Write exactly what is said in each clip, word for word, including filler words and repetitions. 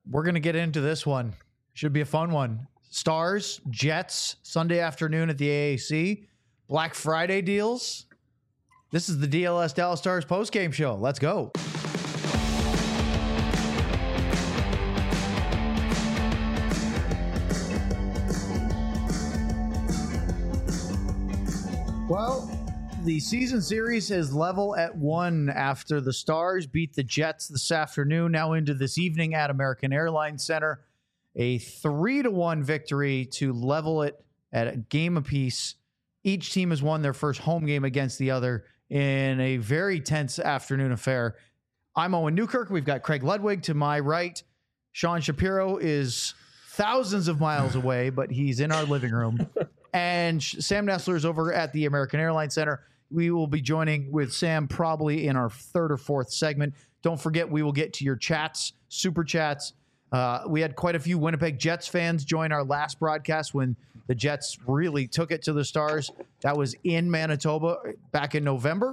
we're going to get into this one. Should be a fun one. Stars, Jets, Sunday afternoon at the A A C. Black Friday deals. This is the D L S Dallas Stars postgame show. Let's go. Well, the season series is level at one after the Stars beat the Jets this afternoon, now into this evening at American Airlines Center. A three to one victory to level it at a game apiece. Each team has won their first home game against the other in a very tense afternoon affair. I'm Owen Newkirk. We've got Craig Ludwig to my right. Sean Shapiro is thousands of miles away, but he's in our living room. And Sam Nestler is over at the American Airlines Center. We will be joining with Sam probably in our third or fourth segment. Don't forget, we will get to your chats, super chats. Uh, we had quite a few Winnipeg Jets fans join our last broadcast when the Jets really took it to the Stars. That was in Manitoba back in November.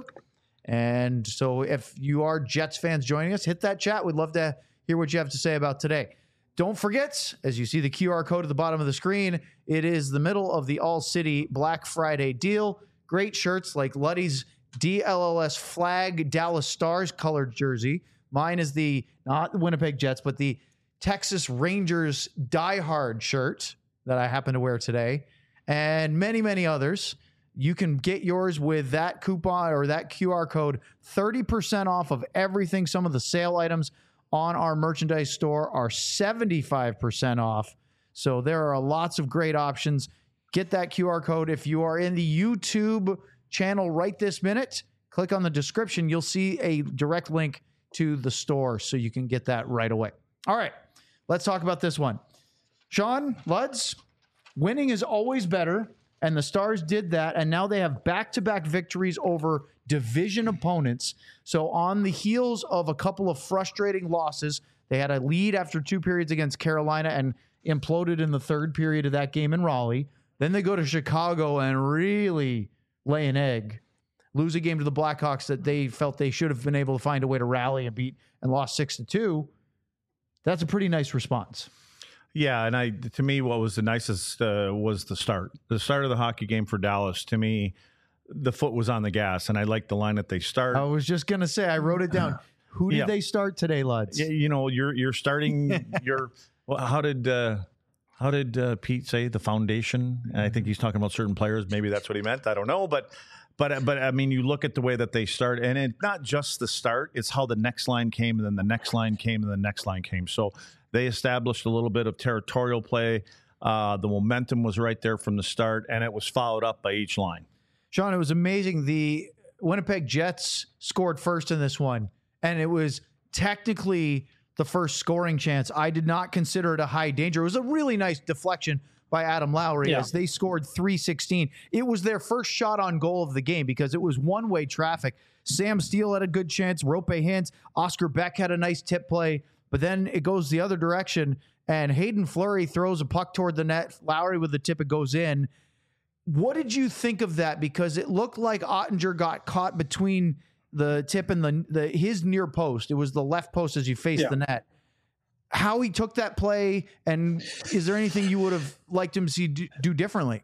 And so if you are Jets fans joining us, hit that chat. We'd love to hear what you have to say about today. Don't forget, as you see the Q R code at the bottom of the screen, it is the middle of the All-City Black Friday deal. Great shirts like Luddy's D L L S flag Dallas Stars colored jersey. Mine is the, not the Winnipeg Jets, but the Texas Rangers Die Hard shirt that I happen to wear today, and many, many others. You can get yours with that coupon or that Q R code, thirty percent off of everything. Some of the sale items on our merchandise store are seventy-five percent off. So there are lots of great options. Get that Q R code. If you are in the YouTube channel right this minute, click on the description. You'll see a direct link to the store so you can get that right away. All right, let's talk about this one. Sean, Luds, winning is always better, and the Stars did that, and now they have back-to-back victories over division opponents. So on the heels of a couple of frustrating losses, they had a lead after two periods against Carolina and imploded in the third period of that game in Raleigh. Then they go to Chicago and really lay an egg, lose a game to the Blackhawks that they felt they should have been able to find a way to rally and beat, and lost six to two. That's a pretty nice response. Yeah, and I to me, what was the nicest uh, was the start. The start of the hockey game for Dallas, to me, the foot was on the gas, and I like the line that they start. I was just going to say, I wrote it down. Who did yeah. they start today, Luds? Yeah, you know, you're you're starting your well, how did uh, how did uh, Pete say the foundation? And I think he's talking about certain players. Maybe that's what he meant. I don't know, but but but I mean, you look at the way that they start, and it's not just the start; it's how the next line came, and then the next line came, and the next line came. So they established a little bit of territorial play. Uh, the momentum was right there from the start, and it was followed up by each line. Sean, it was amazing. The Winnipeg Jets scored first in this one, and it was technically the first scoring chance. I did not consider it a high danger. It was a really nice deflection by Adam Lowry yeah. as they scored three sixteen. It was their first shot on goal of the game because it was one-way traffic. Sam Steele had a good chance. Rope Hintz. Oscar Beck had a nice tip play, but then it goes the other direction, and Hayden Fleury throws a puck toward the net. Lowry with the tip, it goes in. What did you think of that? Because it looked like Ottinger got caught between the tip and the, the his near post. It was the left post as you faced yeah. the net. How he took that play, and is there anything you would have liked him to see do, do differently?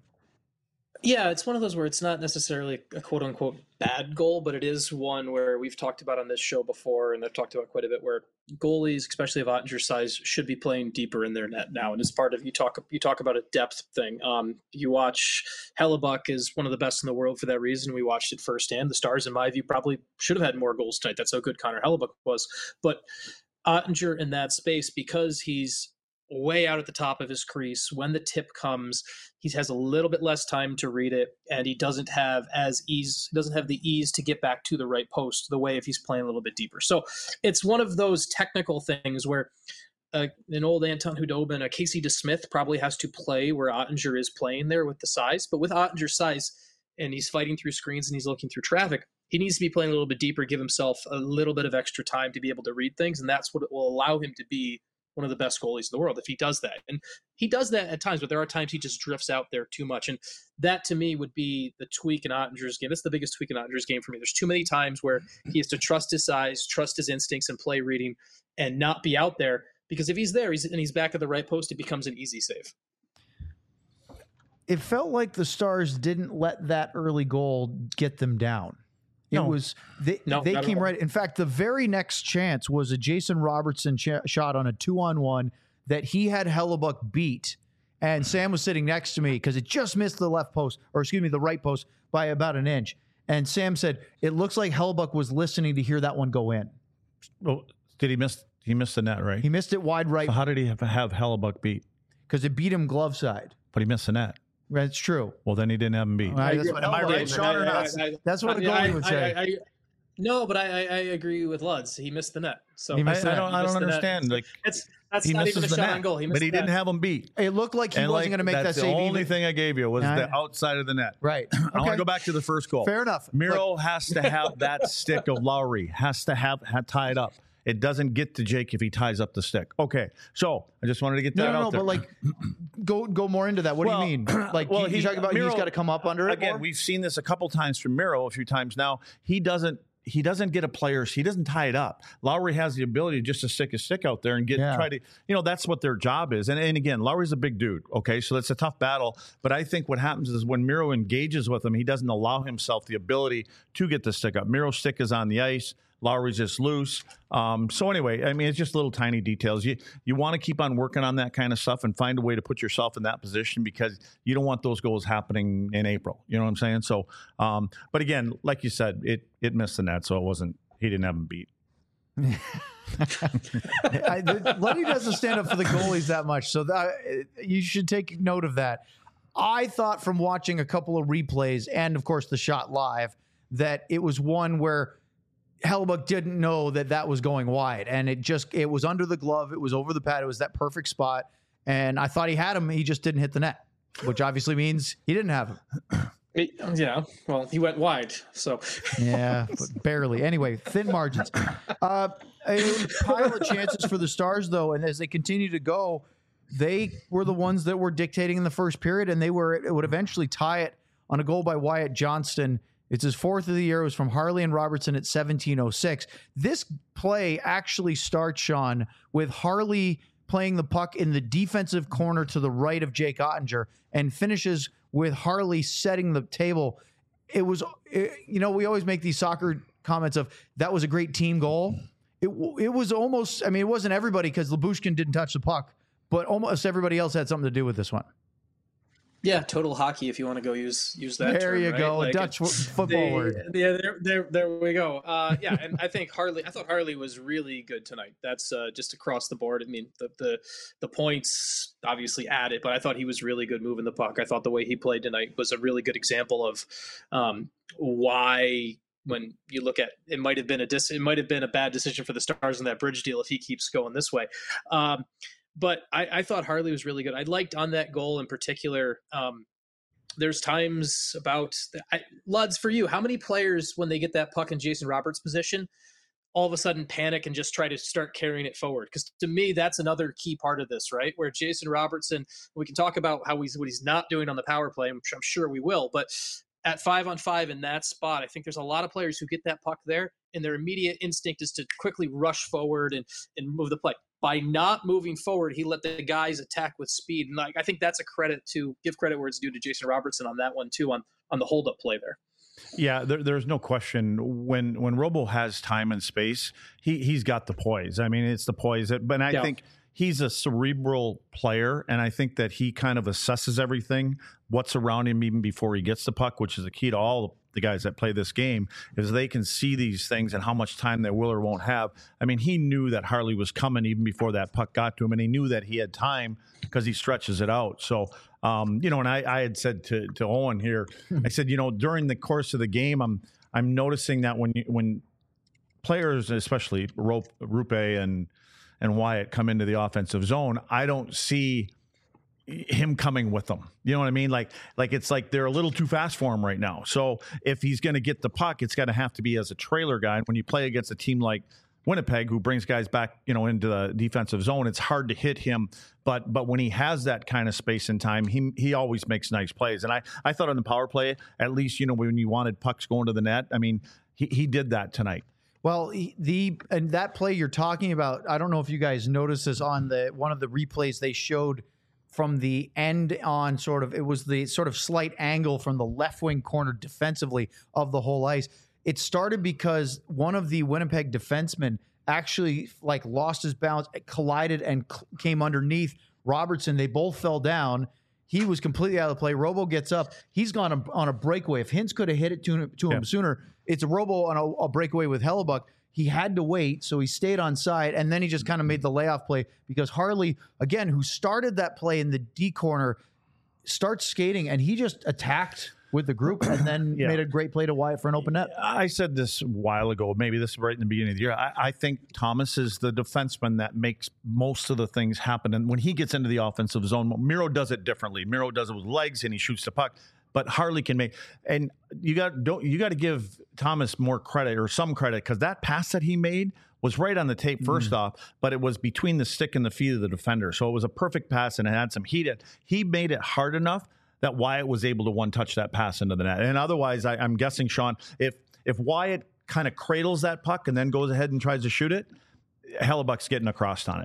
Yeah, it's one of those where it's not necessarily a quote-unquote bad goal, but it is one where we've talked about on this show before, and I've talked about quite a bit, where goalies, especially of Ottinger's size, should be playing deeper in their net now. And as part of, you talk you talk about a depth thing. Um, you watch Hellebuck is one of the best in the world for that reason. We watched it firsthand. The Stars, in my view, probably should have had more goals tonight. That's how good Connor Hellebuck was. But Ottinger in that space, because he's way out at the top of his crease, when the tip comes, he has a little bit less time to read it, and he doesn't have as ease doesn't have the ease to get back to the right post the way if he's playing a little bit deeper. So it's one of those technical things where uh, an old Anton Hudobin, a Casey DeSmith probably has to play where Ottinger is playing there with the size. But with Ottinger's size, and he's fighting through screens and he's looking through traffic, he needs to be playing a little bit deeper, give himself a little bit of extra time to be able to read things, and that's what it will allow him to be one of the best goalies in the world if he does that. And he does that at times, but there are times he just drifts out there too much. And that to me would be the tweak in Ottinger's game. That's the biggest tweak in Ottinger's game for me. There's too many times where he has to trust his size, trust his instincts and play reading, and not be out there because if he's there he's, and he's back at the right post, it becomes an easy save. It felt like the Stars didn't let that early goal get them down. It No. was they, No, they not at came all. right. In fact, the very next chance was a Jason Robertson ch- shot on a two-on-one that he had Hellebuck beat, and Sam was sitting next to me because it just missed the left post, or excuse me, the right post by about an inch. And Sam said it looks like Hellebuck was listening to hear that one go in. Well, did he miss? He missed the net, right? He missed it wide right So how did he have, have Hellebuck beat? because it beat him glove side. But he missed the net. That's true. Well, then he didn't have him beat. Right, that's what Am I Hellebuck right, would say. Sean, or not? I- I- That's what a I- goalie I- would I- say. I- I- no, but I, I, I agree with Luds. He missed the net. So He I, missed I the don't. net. I He don't missed the net. understand. Like That's that's he not misses even a the shot net, on goal. He missed but he the didn't net. have him beat. It looked like he And wasn't like, going to make that that's save the only either. thing I gave you was Yeah, the I- outside of the net. Right. I want Okay. to go back to the first goal. Fair enough. Miro has to have that stick of Lowry, has to have, have tied up. It doesn't get to Jake if he ties up the stick. Okay, so I just wanted to get No, that no, out no, there. but like, go go more into that. What Well, do you mean? Like, well, you, you he- talk about Miro- he's got to come up under it Again, more? we've seen this a couple times from Miro, a few times now. He doesn't. He doesn't get a player. He doesn't tie it up. Lowry has the ability just to stick his stick out there and get Yeah. try to. You know, that's what their job is. And and again, Lowry's a big dude. Okay, so that's a tough battle. But I think what happens is when Miro engages with him, he doesn't allow himself the ability to get the stick up. Miro's stick is on the ice. Lowry's just loose. Um, so anyway, I mean, it's just little tiny details. You you want to keep on working on that kind of stuff and find a way to put yourself in that position because you don't want those goals happening in April. You know what I'm saying? So, um, but again, like you said, it it missed the net, so it wasn't. He didn't have him beat. I, the- Lenny doesn't stand up for the goalies that much, so that, you should take note of that. I thought from watching a couple of replays and, of course, the shot live that it was one where Hellebuck didn't know that that was going wide, and it just it was under the glove, it was over the pad, it was that perfect spot, and I thought he had him, he just didn't hit the net, which obviously means he didn't have him. It- yeah, well, he went wide, so Yeah, but barely. Anyway, thin margins. Uh, a pile of chances for the Stars, though, and as they continue to go, they were the ones that were dictating in the first period, and they were it would eventually tie it on a goal by Wyatt Johnston. It's his fourth of the year. It was from Harley and Robertson at seventeen oh six. This play actually starts, Sean, with Harley playing the puck in the defensive corner to the right of Jake Ottinger and finishes with Harley setting the table. It was, it, you know, we always make these soccer comments of that was a great team goal. It it was almost, I mean, it wasn't everybody because Lyubushkin didn't touch the puck, but almost everybody else had something to do with this one. yeah, total hockey. If you want to go use use that. There term, you right? go, Like, Dutch it- football they- word. Yeah, there, there, there we go. Uh, yeah, and I think Harley. I thought Harley was really good tonight. That's uh, just across the board. I mean, the the the points obviously added, but I thought he was really good moving the puck. I thought the way he played tonight was a really good example of um, why. When you look at it, might have been a dis- it might have been a bad decision for the Stars in that Bridge deal if he keeps going this way. Um, but I, I thought Harley was really good. I liked on that goal in particular. Um, there's times about I, Luds for you. How many players when they get that puck in Jason Roberts' position, all of a sudden panic and just try to start carrying it forward? Because to me, that's another key part of this, right? Where Jason Robertson, we can talk about how he's what he's not doing on the power play. I'm, I'm sure we will, but at five on five in that spot, I think there's a lot of players who get that puck there, and their immediate instinct is to quickly rush forward and and move the play. By not moving forward, he let the guys attack with speed, and like I think that's a credit to give credit where it's due to Jason Robertson on that one too, on on the hold up play there. Yeah, there, there's no question. When when Robo has time and space, he he's got the poise. I mean, it's the poise. That, but I Yeah. think he's a cerebral player, and I think that he kind of assesses everything, what's around him even before he gets the puck, which is the key to all the guys that play this game, is they can see these things and how much time they will or won't have. I mean, he knew that Harley was coming even before that puck got to him, and he knew that he had time because he stretches it out. So, um, you know, and I, I had said to, to Owen here, I said, you know, during the course of the game, I'm I'm noticing that when you, when players, especially Rope, Rupe and and Wyatt, come into the offensive zone, I don't see him coming with them. You know what I mean? Like, like it's like they're a little too fast for him right now. So if he's going to get the puck, it's going to have to be as a trailer guy. And when you play against a team like Winnipeg, who brings guys back, you know, into the defensive zone, it's hard to hit him. But but when he has that kind of space and time, he he always makes nice plays. And I I thought on the power play, at least, you know, when you wanted pucks going to the net, I mean, he he did that tonight. Well, he- the and that play you're talking about, I don't know if you guys noticed this on the one of the replays they showed from the end on sort of, it was the sort of slight angle from the left wing corner defensively of the whole ice. It started because one of the Winnipeg defensemen actually like lost his balance, collided and cl- came underneath Robertson. They both fell down. He was completely out of the play. Robo gets up. He's gone a, on a breakaway. If Hintz could have hit it to, to him Yeah. sooner, it's a Robo on a, a breakaway with Hellebuck. He had to wait, so he stayed on side, and then he just kind of made the layoff play because Harley, again, who started that play in the D corner, starts skating, and he just attacked with the group and then Yeah. made a great play to Wyatt for an open net. I said this a while ago, maybe this is right in the beginning of the year. I, I think Thomas is the defenseman that makes most of the things happen. And when he gets into the offensive zone, Miro does it differently. Miro does it with legs and he shoots the puck. But Harley can make, and you got don't you got to give Thomas more credit or some credit because that pass that he made was right on the tape first mm. off, but it was between the stick and the feet of the defender. So it was a perfect pass and it had some heat. He made it hard enough that Wyatt was able to one-touch that pass into the net. And otherwise, I, I'm guessing, Sean, if if Wyatt kind of cradles that puck and then goes ahead and tries to shoot it, Hellebuck's getting across on it.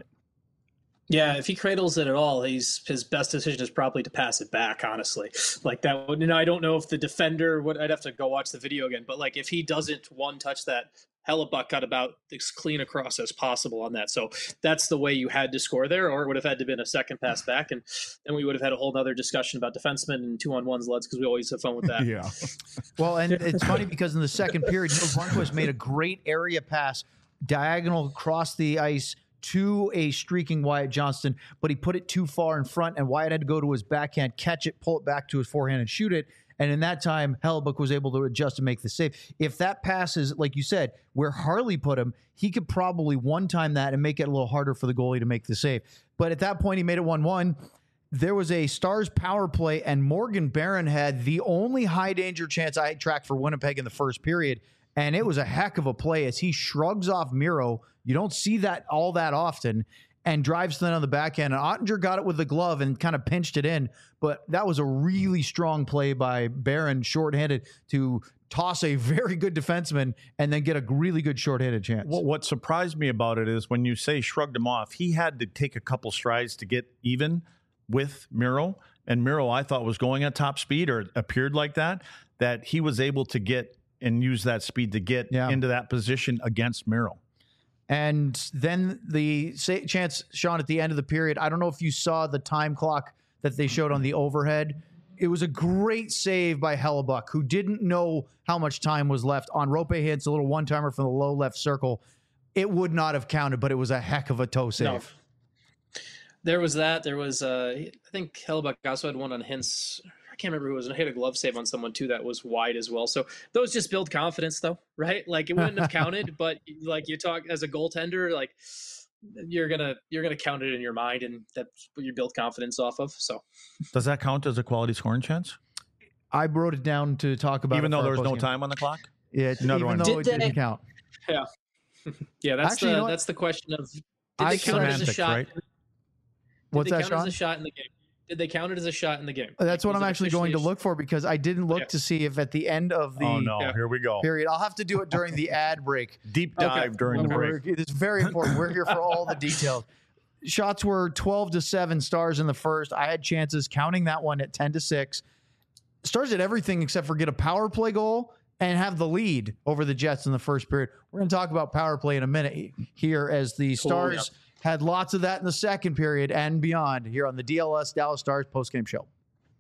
Yeah, if he cradles it at all, he's his best decision is probably to pass it back, honestly. Like that would, you know, I don't know if the defender would, I'd have to go watch the video again, but like if he doesn't one-touch that, Hellebuck got about as clean across as possible on that. So that's the way you had to score there, or it would have had to been a second pass back, and then we would have had a whole other discussion about defensemen and two-on-ones, Leds, because we always have fun with that. Yeah. Well, and it's funny because in the second period, Neil Lundqvist made a great area pass diagonal across the ice to a streaking Wyatt Johnston, but he put it too far in front, and Wyatt had to go to his backhand, catch it, pull it back to his forehand, and shoot it. And in that time, Hellebuck was able to adjust and make the save. If that pass is, like you said, where Harley put him, he could probably one-time that and make it a little harder for the goalie to make the save. But at that point, he made it one one. There was a Stars power play, and Morgan Barron had the only high-danger chance I tracked for Winnipeg in the first period. And it was a heck of a play as he shrugs off Miro. You don't see that all that often, and drives to the end of the backhand. And Ottinger got it with the glove and kind of pinched it in. But that was a really strong play by Barron, shorthanded, to toss a very good defenseman and then get a really good shorthanded chance. What, what surprised me about it is when you say shrugged him off, he had to take a couple strides to get even with Miro. And Miro, I thought, was going at top speed, or it appeared like that, that he was able to get and use that speed to get yeah. into that position against Miro. And then the chance, Sean, at the end of the period, I don't know if you saw the time clock that they showed on the overhead. It was a great save by Hellebuck, who didn't know how much time was left on Roope Hintz, a little one-timer from the low left circle. It would not have counted, but it was a heck of a toe save. No. There was that. There was, uh, I think Hellebuck also had one on Hintz. I can't remember who it was. And I hit a glove save on someone too that was wide as well. So those just build confidence, though, right? Like it wouldn't have counted, but like you talk as a goaltender, like you're gonna you're gonna count it in your mind, and that's what you build confidence off of. So does that count as a quality scoring chance? I wrote it down to talk about, even it though there was no game. time on the clock. Yeah, another even one. though Did it they, didn't count. Yeah, yeah. That's Actually, the you know that's the question of did I they count it as a shot? Right? Did What's they that, count Sean? it as a shot in the game? Did they count it as a shot in the game? That's Like, what was I'm it actually going to officially- look for, because I didn't look Yeah. to see if at the end of the Oh no! Yeah. Here we go. period. I'll have to do it during the ad break. Deep dive Okay. during the We're- break. It's very important. We're here for all the details. Shots were twelve to seven Stars in the first. I had chances, counting that one at ten to six. Stars did everything except for get a power play goal and have the lead over the Jets in the first period. We're going to talk about power play in a minute here, as the Stars Cool, had lots of that in the second period and beyond, here on the D L S Dallas Stars postgame show.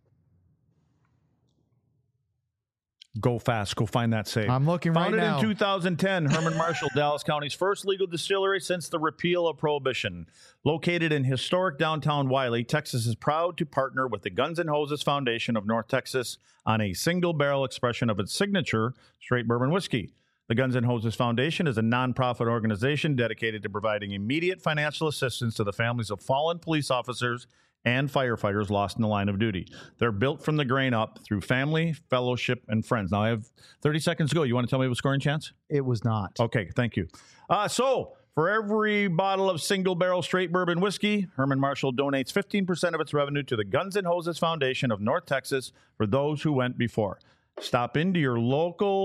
Go fast. Go find that save. I'm looking right Founded now. in two thousand ten, Herman Marshall, Dallas County's first legal distillery since the repeal of Prohibition. Located in historic downtown Wiley, Texas is proud to partner with the Guns N' Hoses Foundation of North Texas on a single-barrel expression of its signature straight bourbon whiskey. The Guns N' Hoses Foundation is a nonprofit organization dedicated to providing immediate financial assistance to the families of fallen police officers and firefighters lost in the line of duty. They're built from the grain up through family, fellowship, and friends. Now, I have thirty seconds to go. You want to tell me what scoring chance? It was not. Okay, thank you. Uh, so, for every bottle of single-barrel straight bourbon whiskey, Herman Marshall donates fifteen percent of its revenue to the Guns N' Hoses Foundation of North Texas for those who went before. Stop into your local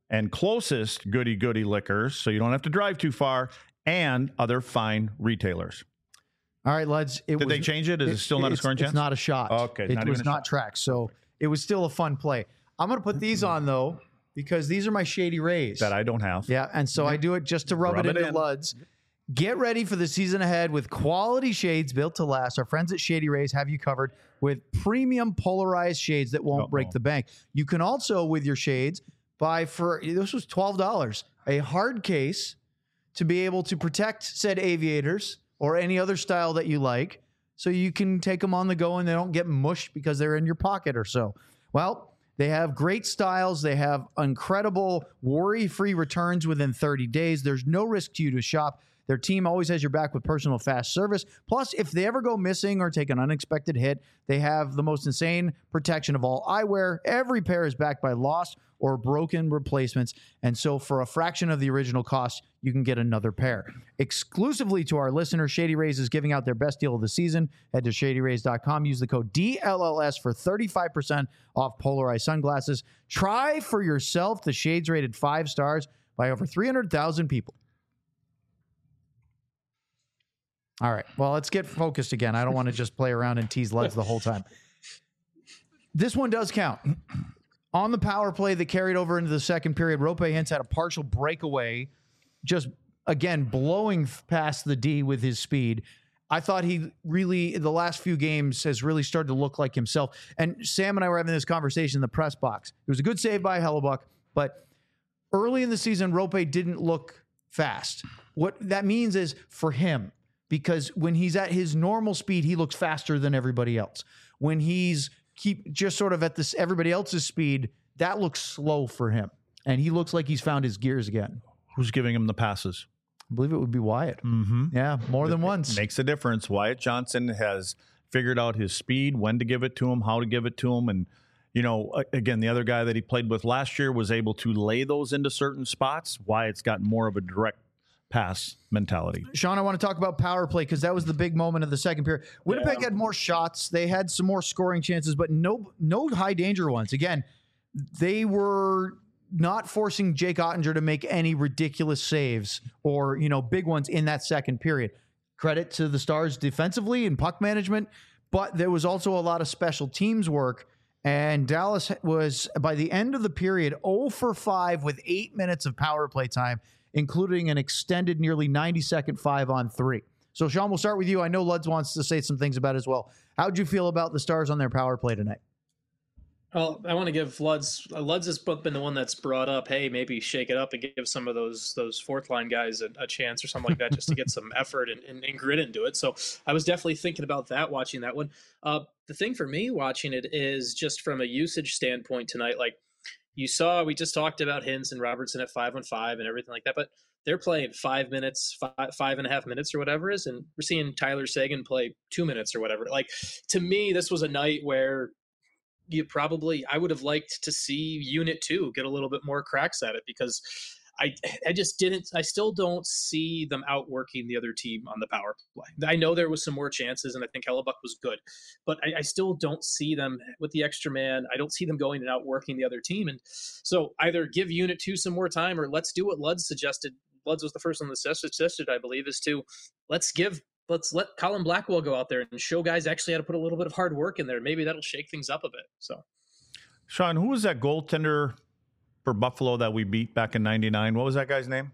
and closest Goody Goody Liquors, so you don't have to drive too far, and other fine retailers. All right, lads. It Did was, they change it? Is it, it still not a scoring it's chance? It's not a shot. Okay. It not was even a not shot. tracked. So it was still a fun play. I'm going to put these on, though, because these are my Shady Rays. That I don't have. Yeah, and so I do it just to rub, Rub it it into in. Luds. Get ready for the season ahead with quality shades built to last. Our friends at Shady Rays have you covered with premium polarized shades that won't Uh-oh. break the bank. You can also, with your shades, buy for, this was twelve dollars, a hard case to be able to protect said aviators or any other style that you like, so you can take them on the go and they don't get mushed because they're in your pocket or so. Well, they have great styles. They have incredible worry-free returns within thirty days. There's no risk to you to shop. Their team always has your back with personal fast service. Plus, if they ever go missing or take an unexpected hit, they have the most insane protection of all eyewear. Every pair is backed by lost or broken replacements. And so for a fraction of the original cost, you can get another pair. Exclusively to our listeners, Shady Rays is giving out their best deal of the season. Head to shady rays dot com. Use the code D L L S for thirty-five percent off polarized sunglasses. Try for yourself the shades rated five stars by over three hundred thousand people. All right. Well, let's get focused again. I don't want to just play around and tease Luds the whole time. This one does count. On the power play that carried over into the second period, Roope Hintz had a partial breakaway, just, again, blowing past the D with his speed. I thought he really, in the last few games, has really started to look like himself. And Sam and I were having this conversation in the press box. It was a good save by Hellebuck, but early in the season, Roope didn't look fast. What that means is for him, because when he's at his normal speed, he looks faster than everybody else. When he's keep just sort of at this everybody else's speed, that looks slow for him. And he looks like he's found his gears again. Who's giving him the passes? I believe it would be Wyatt. Mm-hmm. Yeah, more than once. Makes a difference. Wyatt Johnson has figured out his speed, when to give it to him, how to give it to him. And, you know, again, the other guy that he played with last year was able to lay those into certain spots. Wyatt's got more of a direct pass mentality. Sean, I want to talk about power play because that was the big moment of the second period. Winnipeg Yeah. had more shots. They had some more scoring chances, but no no high danger ones. Again, they were not forcing Jake Ottinger to make any ridiculous saves or, you know, big ones in that second period. Credit to the Stars defensively and puck management, but there was also a lot of special teams work. And Dallas was, by the end of the period, zero for five with eight minutes of power play time, including an extended nearly ninety second five on three. So, Sean, we'll start with you. I know Luds wants to say some things about it as well. How'd you feel about the Stars on their power play tonight? Well, I want to give Luds. Uh, Luds has been the one that's brought up, hey, maybe shake it up and give some of those those fourth line guys a, a chance or something like that, just to get some effort and, and, and grit into it. So I was definitely thinking about that watching that one. Uh, the thing for me watching it is just from a usage standpoint tonight, like you saw, we just talked about Hintz and Robertson at five on five and everything like that, but they're playing five minutes, five, five and a half minutes or whatever it is, and we're seeing Tyler Seguin play two minutes or whatever. Like, to me, this was a night where you probably, I would have liked to see Unit two get a little bit more cracks at it, because I I just didn't, I still don't see them outworking the other team on the power play. I know there was some more chances, and I think Hellebuck was good, but I, I still don't see them with the extra man. I don't see them going and outworking the other team. And so either give Unit two some more time, or let's do what Luds suggested. Luds was the first one that suggested, I believe, is to let's give Let's let Colin Blackwell go out there and show guys actually how to put a little bit of hard work in there. Maybe that'll shake things up a bit. So, Sean, who was that goaltender for Buffalo that we beat back in ninety-nine? What was that guy's name?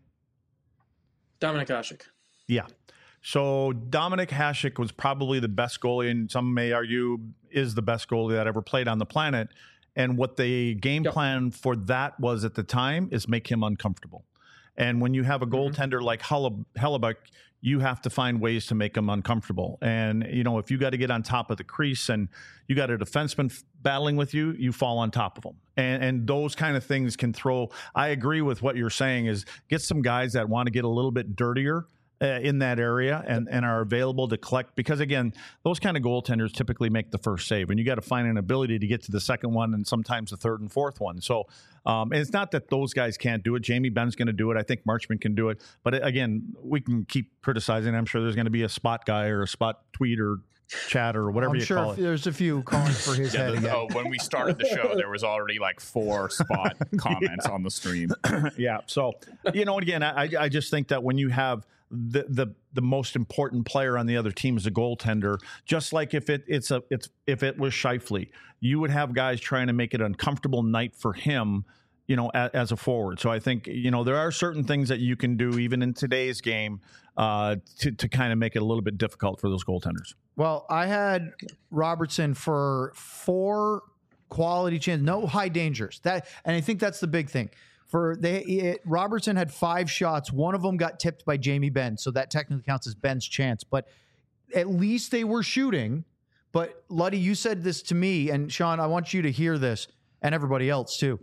Dominic Hasek. Yeah. So Dominic Hasek was probably the best goalie, and some may argue is the best goalie that ever played on the planet. And what the game Yep. plan for that was at the time is make him uncomfortable. And when you have a goaltender mm-hmm. like Hellebuck, you have to find ways to make him uncomfortable. And, you know, if you got to get on top of the crease and you got a defenseman f- battling with you, you fall on top of them. And, and those kind of things can throw. I agree with what you're saying is get some guys that want to get a little bit dirtier uh, in that area and, and are available to collect. Because, again, those kind of goaltenders typically make the first save, and you got to find an ability to get to the second one and sometimes the third and fourth one. So um, and it's not that those guys can't do it. Jamie Benn's going to do it. I think Marchment can do it. But, again, we can keep criticizing. I'm sure there's going to be a spot guy or a spot tweet or chat or whatever I'm you sure call it. There's a few calling for his Yeah, head the, again. oh, when we started the show, there was already like four spot comments on the stream. Yeah. So, you know, again, I, I just think that when you have the, the the most important player on the other team is a goaltender, just like if it it's a it's if it was Scheifele, you would have guys trying to make it an uncomfortable night for him, you know, as, as a forward. So I think, you know, there are certain things that you can do even in today's game uh, to to kind of make it a little bit difficult for those goaltenders. Well, I had Robertson for four quality chances, no high dangers. That, and I think that's the big thing. For they, it, Robertson had five shots. One of them got tipped by Jamie Benn, so that technically counts as Ben's chance. But at least they were shooting. But Luddy, you said this to me, and Sean, I want you to hear this, and everybody else too.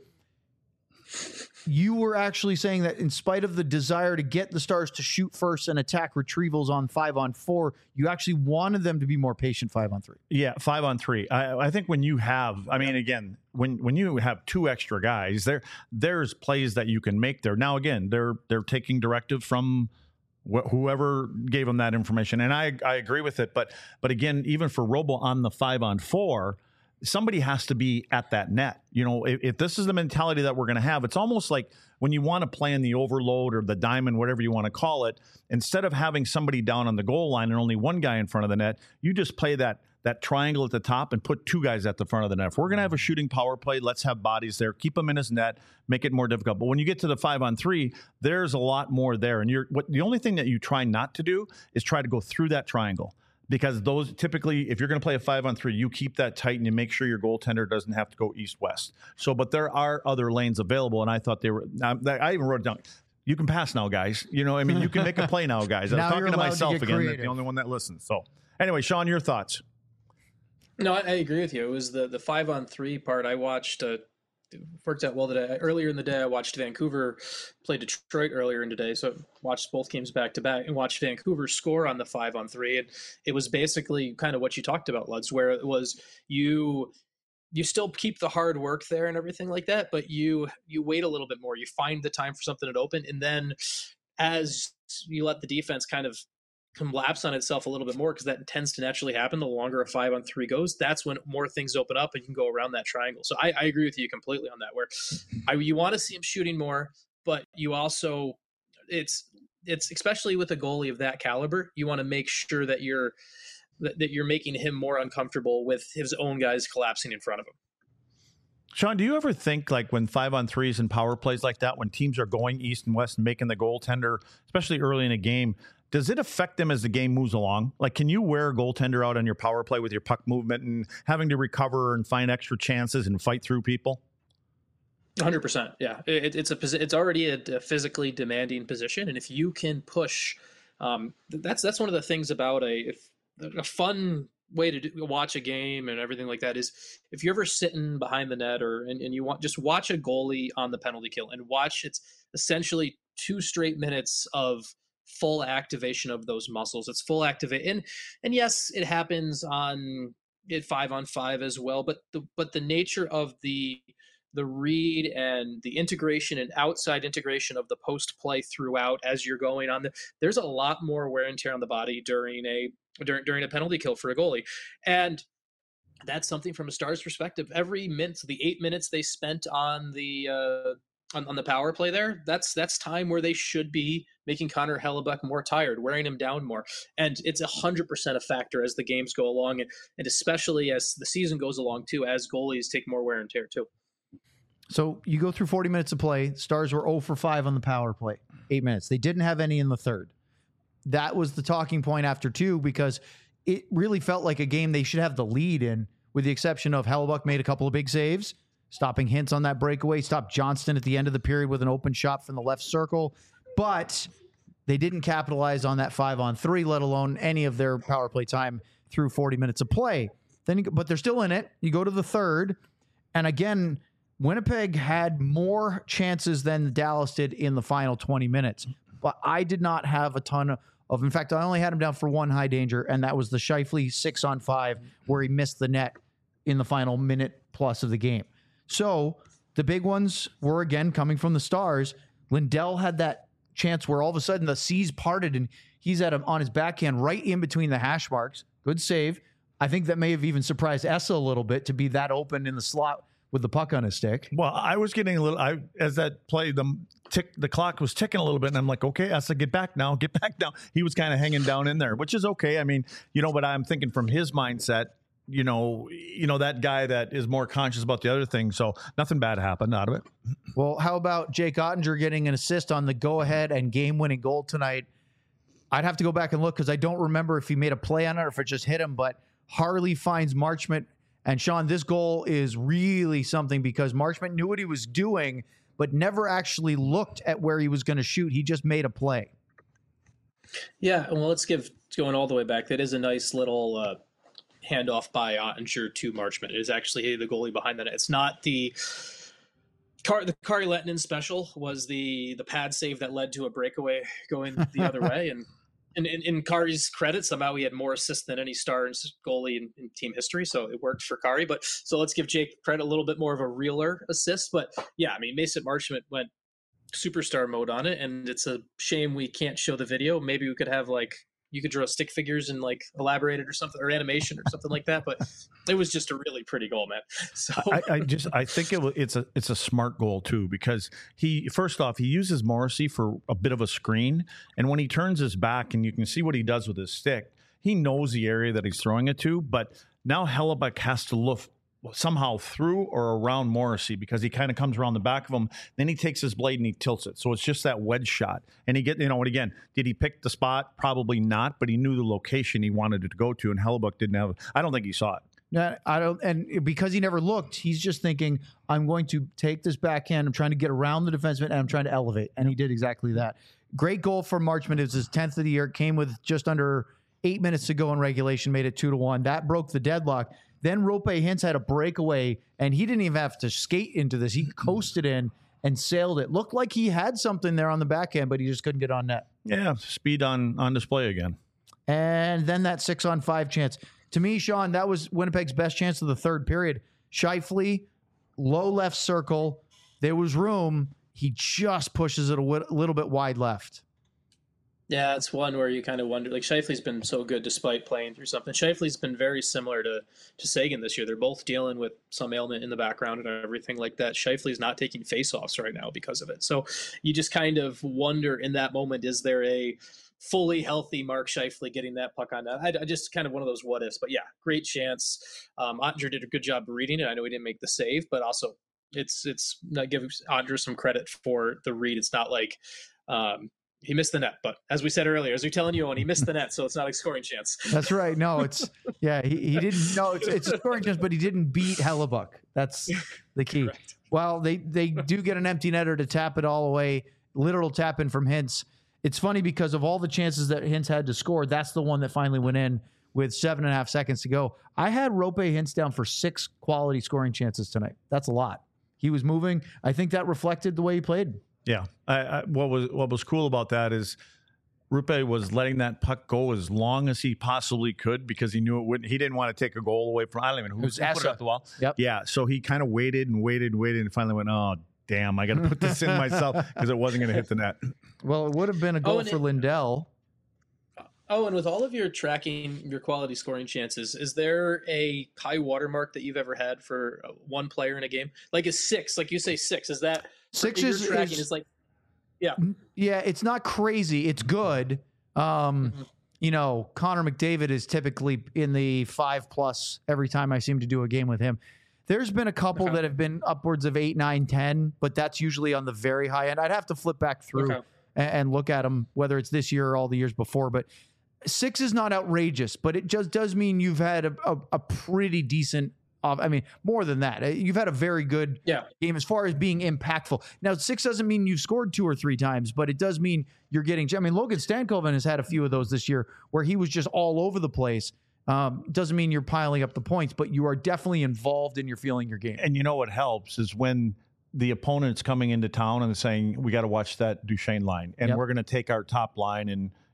You were actually saying that in spite of the desire to get the Stars to shoot first and attack retrievals on five on four, you actually wanted them to be more patient five on three. Yeah, five on three. I, I think when you have, I mean, again, when when you have two extra guys, there there's plays that you can make there. Now, again, they're they're taking directive from wh- whoever gave them that information, and I I agree with it. But but again, even for Robo on the five on four, somebody has to be at that net. You know, if, if this is the mentality that we're going to have, it's almost like when you want to play in the overload or the diamond, whatever you want to call it, instead of having somebody down on the goal line and only one guy in front of the net, you just play that that triangle at the top and put two guys at the front of the net. If we're going to have a shooting power play, let's have bodies there, keep them in his net, make it more difficult. But when you get to the five on three, there's a lot more there. And you're what the only thing that you try not to do is try to go through that triangle. Because those typically, if you're going to play a five on three, you keep that tight and you make sure your goaltender doesn't have to go east west. So, but there are other lanes available, and I thought they were. I even wrote it down. You can pass now, guys. You know, I mean, you can make a play now, guys. I'm Now talking you're to allowed to myself get again, creative. the only one that listens. So, anyway, Sean, your thoughts? No, I, I agree with you. It was the the five on three part. I watched. Uh, worked out well today. Earlier in the day, I watched Vancouver play Detroit earlier in the day, so I watched both games back to back and watched Vancouver score on the five on three. And it was basically kind of what you talked about, Lutz, where it was you you still keep the hard work there and everything like that, but you you wait a little bit more. You find the time for something to open, and then as you let the defense kind of collapse on itself a little bit more, because that tends to naturally happen the longer a five on three goes, that's when more things open up and you can go around that triangle. So I, I agree with you completely on that, where I, you want to see him shooting more, but you also it's it's especially with a goalie of that caliber, you want to make sure that you're that, that you're making him more uncomfortable with his own guys collapsing in front of him. Sean, do you ever think, like, when five on threes and power plays like that, when teams are going east and west and making the goaltender, especially early in a game, does it affect them as the game moves along? Like, can you wear a goaltender out on your power play with your puck movement and having to recover and find extra chances and fight through people? one hundred percent. Yeah. It, it's a it's already a, a physically demanding position. And if you can push, um, that's that's one of the things about a, if, a fun way to do, watch a game and everything like that is if you're ever sitting behind the net or and, and you want just watch a goalie on the penalty kill and watch it's essentially two straight minutes of full activation of those muscles. It's full activate and and yes, it happens on it five on five as well, but the but the nature of the the read and the integration and outside integration of the post play throughout as you're going on the there's a lot more wear and tear on the body during a during during a penalty kill for a goalie. And that's something from a Stars perspective. Every minute, the eight minutes they spent on the uh, on, on the power play there, that's that's time where they should be making Connor Hellebuck more tired, wearing him down more. And it's one hundred percent a factor as the games go along, and, and especially as the season goes along, too, as goalies take more wear and tear, too. So you go through forty minutes of play. Stars were zero for five on the power play, eight minutes. They didn't have any in the third. That was the talking point after two, because it really felt like a game they should have the lead in, with the exception of Hellebuck made a couple of big saves, stopping Hintz on that breakaway, stopped Johnston at the end of the period with an open shot from the left circle. But they didn't capitalize on that five on three, let alone any of their power play time through forty minutes of play. Then, you, but they're still in it. You go to the third, and again, Winnipeg had more chances than Dallas did in the final twenty minutes. But I did not have a ton of, of, in fact, I only had him down for one high danger, and that was the Scheifele six on five where he missed the net in the final minute plus of the game. So the big ones were, again, coming from the Stars. Lindell had that chance where all of a sudden the seas parted and he's at him on his backhand right in between the hash marks. Good save. I think that may have even surprised Essa a little bit to be that open in the slot with the puck on his stick. Well, I was getting a little, I as that play, the tick, the clock was ticking a little bit, and I'm like, okay, Essa, get back now, get back now. He was kind of hanging down in there, which is okay. I mean, you know, but I'm thinking from his mindset, you know, you know, that guy that is more conscious about the other thing. So nothing bad happened out of it. Well, how about Jake Ottinger getting an assist on the go-ahead and game-winning goal tonight? I'd have to go back and look because I don't remember if he made a play on it or if it just hit him, but Harley finds Marchment. And Sean, this goal is really something because Marchment knew what he was doing, but never actually looked at where he was going to shoot. He just made a play. Yeah, well, let's give going all the way back. That is a nice little uh, handoff by Ottinger to Marchment. It is actually the goalie behind that. It's not the Car- the Kari Lehtinen special was the the pad save that led to a breakaway going the other way. And in, in, in Kari's credit, somehow he had more assists than any Stars goalie in, in team history, so it worked for Kari. But so let's give Jake credit a little bit more of a realer assist. But yeah, I mean, Mason Marchment went superstar mode on it, and it's a shame we can't show the video. Maybe we could have like you could draw stick figures and like elaborate it or something, or animation or something like that. But it was just a really pretty goal, man. So I, I just I think it was, it's a it's a smart goal too, because he first off he uses Morrissey for a bit of a screen, and when he turns his back and you can see what he does with his stick, he knows the area that he's throwing it to. But now Hellebuck has to look somehow through or around Morrissey because he kind of comes around the back of him. Then he takes his blade and he tilts it. So it's just that wedge shot. And he get, you know, and again, did he pick the spot? Probably not, but he knew the location he wanted it to go to, and Hellebuck didn't have, I don't think he saw it. Yeah, I don't, and because he never looked, he's just thinking, I'm going to take this backhand, I'm trying to get around the defenseman, and I'm trying to elevate. And he did exactly that. Great goal for Marchment. It was his tenth of the year. It came with just under eight minutes to go in regulation, made it two to one. That broke the deadlock. Then Rope Hintz had a breakaway, and he didn't even have to skate into this. He coasted in and sailed it. Looked like he had something there on the backhand, but he just couldn't get on net. Yeah, speed on, on display again. And then that six-on-five chance. To me, Sean, that was Winnipeg's best chance of the third period. Scheifele, low left circle. There was room. He just pushes it a w- little bit wide left. Yeah, it's one where you kind of wonder, like Scheifele's been so good despite playing through something. Scheifele's been very similar to, to Sagan this year. They're both dealing with some ailment in the background and everything like that. Scheifele's not taking faceoffs right now because of it. So you just kind of wonder in that moment, is there a fully healthy Mark Scheifele getting that puck on net? I, I just kind of one of those what ifs, but yeah, great chance. Um, Ottinger did a good job reading it. I know he didn't make the save, but also it's, it's not giving Ottinger some credit for the read. It's not like, um, he missed the net, but as we said earlier, as we're telling you, and he missed the net, so it's not a scoring chance. That's right. No, it's yeah. He, he didn't. No, it's it's a scoring chance, but he didn't beat Hellebuck. That's the key. Correct. Well, they they do get an empty netter to tap it all away. Literal tap in from Hintz. It's funny because of all the chances that Hintz had to score, that's the one that finally went in with seven and a half seconds to go. I had Rope Hintz down for six quality scoring chances tonight. That's a lot. He was moving. I think that reflected the way he played. Yeah. I, I, what was what was cool about that is Rupe was letting that puck go as long as he possibly could because he knew it wouldn't. He didn't want to take a goal away from. I don't even know who, was who put it up the wall. Yep. Yeah. So he kind of waited and waited and waited and finally went, oh, damn, I got to put this in myself because it wasn't going to hit the net. Well, it would have been a goal oh, for it, Lindell. Oh, and with all of your tracking, your quality scoring chances, is there a high watermark that you've ever had for one player in a game? Like a six, like you say six, is that six is, tracking is, is like, yeah. Yeah, it's not crazy. It's good. Um, mm-hmm. You know, Connor McDavid is typically in the five plus every time I seem to do a game with him. There's been a couple okay. that have been upwards of eight, nine, ten, but that's usually on the very high end. I'd have to flip back through okay. and, and look at them, whether it's this year or all the years before. But six is not outrageous, but it just does mean you've had a, a, a pretty decent Uh, I mean, more than that. You've had a very good yeah. game as far as being impactful. Now, six doesn't mean you've scored two or three times, but it does mean you're getting... I mean, Logan Stankoven has had a few of those this year where he was just all over the place. Um, doesn't mean you're piling up the points, but you are definitely involved in your feeling your game. And you know what helps is when the opponent's coming into town and saying, we got to watch that Duchesne line, and yep. we're going to take our top line and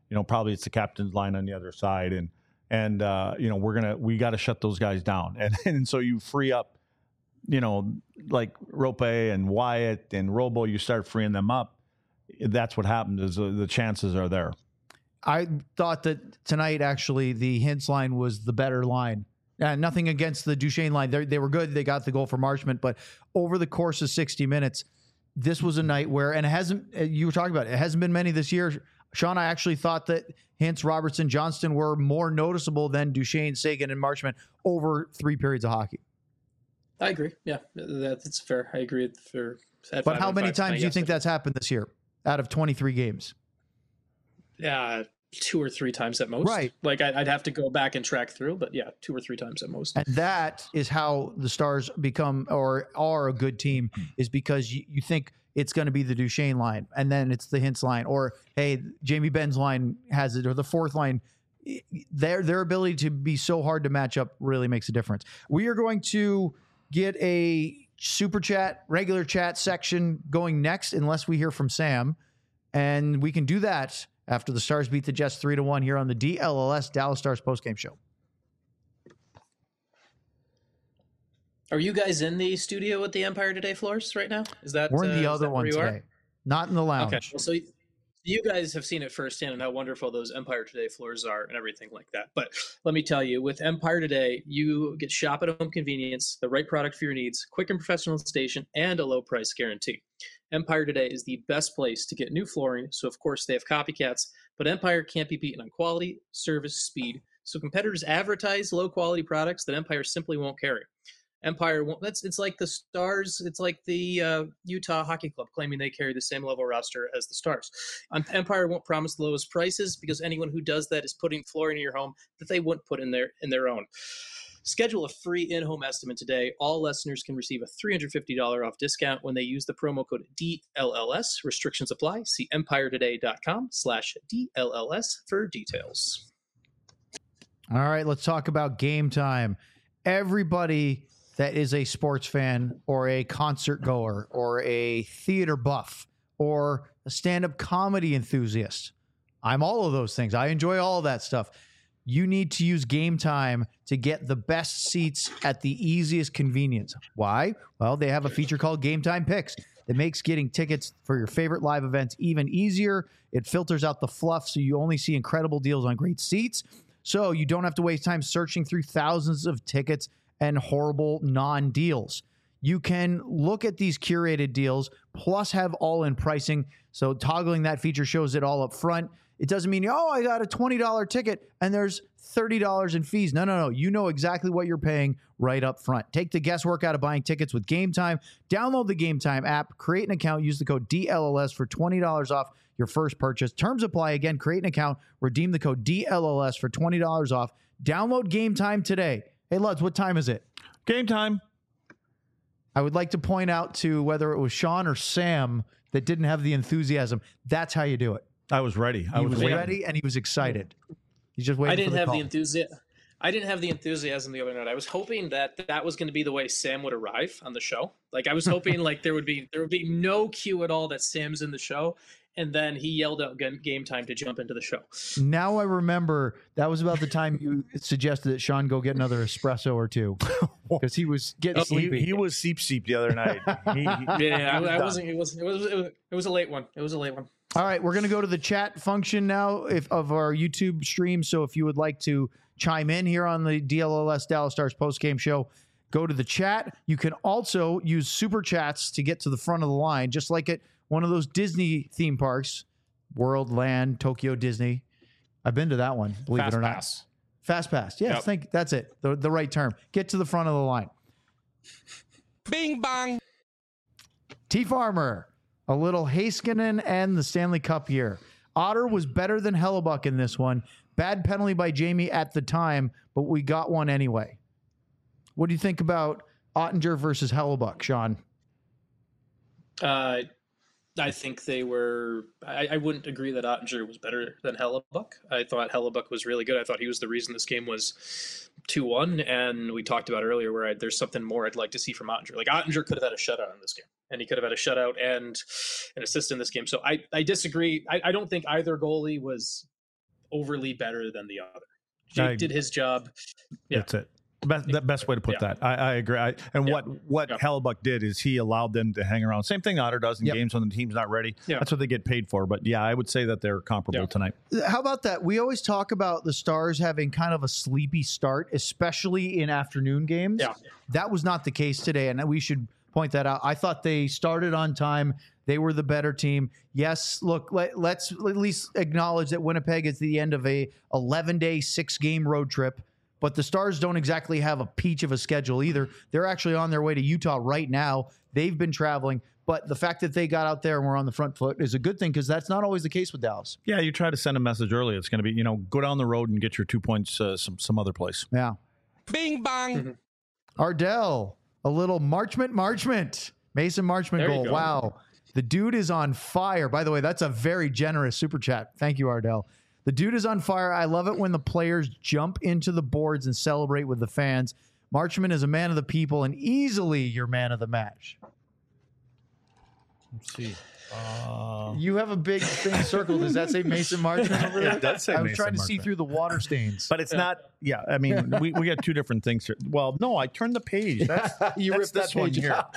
you know, probably it's the captain's line on the other side, and and uh, you know, we're gonna we got to shut those guys down, and and so you free up, you know, like Rope and Wyatt and Robo, you start freeing them up. That's what happens. Is the, the chances are there. I thought that tonight actually the Hintz line was the better line. Uh, nothing against the Duchesne line. They're, they were good. They got the goal for Marchment. But over the course of sixty minutes, this was a night where, and it hasn't, you were talking about it, it hasn't been many this year. Sean, I actually thought that Hintz, Robertson, Johnston were more noticeable than Duchesne, Sagan, and Marchment over three periods of hockey. I agree. Yeah, that's fair. I agree. For But how many times do you think that's happened this year out of twenty-three games? Yeah. Two or three times at most. Right. Like I'd have to go back and track through, but yeah, two or three times at most. And that is how the Stars become or are a good team, is because you, you think it's going to be the Duchesne line and then it's the Hintz line, or, hey, Jamie Benn's line has it, or the fourth line. Their, their ability to be so hard to match up really makes a difference. We are going to get a super chat, regular chat section going next, unless we hear from Sam. And we can do that after the Stars beat the Jets three to one here on the D L L S Dallas Stars postgame show. Are you guys in the studio with the Empire Today floors right now? Is that we're in the uh, other one today, not in the lounge? Okay, well, so you guys have seen it firsthand and how wonderful those Empire Today floors are and everything like that. But let me tell you, with Empire Today, you get shop at home convenience, the right product for your needs, quick and professional installation, and a low price guarantee. Empire Today is the best place to get new flooring, so of course they have copycats, but Empire can't be beaten on quality, service, speed. So competitors advertise low quality products that Empire simply won't carry. Empire won't. That's it's like the Stars. It's like the uh, Utah Hockey Club claiming they carry the same level roster as the Stars. Um, Empire won't promise the lowest prices because anyone who does that is putting flooring in your home that they wouldn't put in their in their own. Schedule a free in-home estimate today. All listeners can receive a three hundred fifty dollars off discount when they use the promo code D L L S. Restrictions apply. See empiretoday.com slash DLLS for details. All right, let's talk about Game Time. Everybody that is a sports fan or a concert goer or a theater buff or a stand-up comedy enthusiast, I'm all of those things. I enjoy all of that stuff. You need to use Game Time to get the best seats at the easiest convenience. Why? Well, they have a feature called Game Time Picks that makes getting tickets for your favorite live events even easier. It filters out the fluff so you only see incredible deals on great seats. So you don't have to waste time searching through thousands of tickets and horrible non-deals. You can look at these curated deals, plus have all-in pricing. So toggling that feature shows it all up front. It doesn't mean, oh, I got a twenty dollars ticket and there's thirty dollars in fees. No, no, no. You know exactly what you're paying right up front. Take the guesswork out of buying tickets with Game Time. Download the Game Time app, create an account, use the code D L L S for twenty dollars off your first purchase. Terms apply. Again, create an account, redeem the code D L L S for twenty dollars off. Download Game Time today. Hey, Luds, what time is it? Game time. I would like to point out to whether it was Sean or Sam that didn't have the enthusiasm. That's how you do it. I was ready. I he was, was waiting. ready and he was excited. He's just waiting. I didn't for the have call. the enthusiasm. I didn't have the enthusiasm the other night. I was hoping that that was going to be the way Sam would arrive on the show. Like I was hoping like there would be there would be no cue at all that Sam's in the show, and then he yelled out Game Time to jump into the show. Now I remember that was about the time you suggested that Sean go get another espresso or two because he was getting He, sleepy. he was seep seep the other night. He, he, Yeah, I, I wasn't. It was, it was. It was. It was a late one. It was a late one. All right, we're going to go to the chat function now if, of our YouTube stream. So if you would like to chime in here on the D L L S Dallas Stars postgame show, go to the chat. You can also use super chats to get to the front of the line, just like at one of those Disney theme parks, World, Land, Tokyo, Disney. I've been to that one, believe Fast it or not. pass. Fast pass. Yes, Yep. think that's it. The, the right term. Get to the front of the line. Bing bang. T Farmer, a little Heiskanen and the Stanley Cup year. Otter was better than Hellebuck in this one. Bad penalty by Jamie at the time, but we got one anyway. What do you think about Ottinger versus Hellebuck, Sean? Uh, I think they were. I, I wouldn't agree that Ottinger was better than Hellebuck. I thought Hellebuck was really good. I thought he was the reason this game was two one. And we talked about earlier where I, there's something more I'd like to see from Ottinger. Like Ottinger could have had a shutout in this game, and he could have had a shutout and an assist in this game. So I, I disagree. I, I don't think either goalie was overly better than the other. Jake I, did his job. Yeah. That's it. Best, the best way to put Yeah. that. I, I agree. I, and Yeah. what what Yeah. Hellebuck did is he allowed them to hang around. Same thing Otter does in Yep. games when the team's not ready. Yeah. That's what they get paid for. But yeah, I would say that they're comparable Yeah. tonight. How about that? We always talk about the Stars having kind of a sleepy start, especially in afternoon games. Yeah. That was not the case today, and we should point that out. I thought they started on time. They were the better team. Yes, look, let, let's at least acknowledge that Winnipeg is the end of a eleven-day, six-game road trip. But the Stars don't exactly have a peach of a schedule either. They're actually on their way to Utah right now. They've been traveling. But the fact that they got out there and were on the front foot is a good thing because that's not always the case with Dallas. Yeah, you try to send a message early. It's going to be, you know, go down the road and get your two points uh, some some other place. Yeah. Bing bang. Ardell, a little Marchment, Marchment. Mason Marchment There you goal. go. Wow. The dude is on fire. By the way, that's a very generous super chat. Thank you, Ardell. The dude is on fire. I love it when the players jump into the boards and celebrate with the fans. Marchment is a man of the people and easily your man of the match. Let's see. Uh, You have a big thing circled. Does that say Mason Marchment over there? It does say I was Mason trying to see Marchment. through the water stains. but it's not. Yeah, I mean, we, we got two different things here. Well, no, I turned the page. That's, you that's ripped that this one page here. out.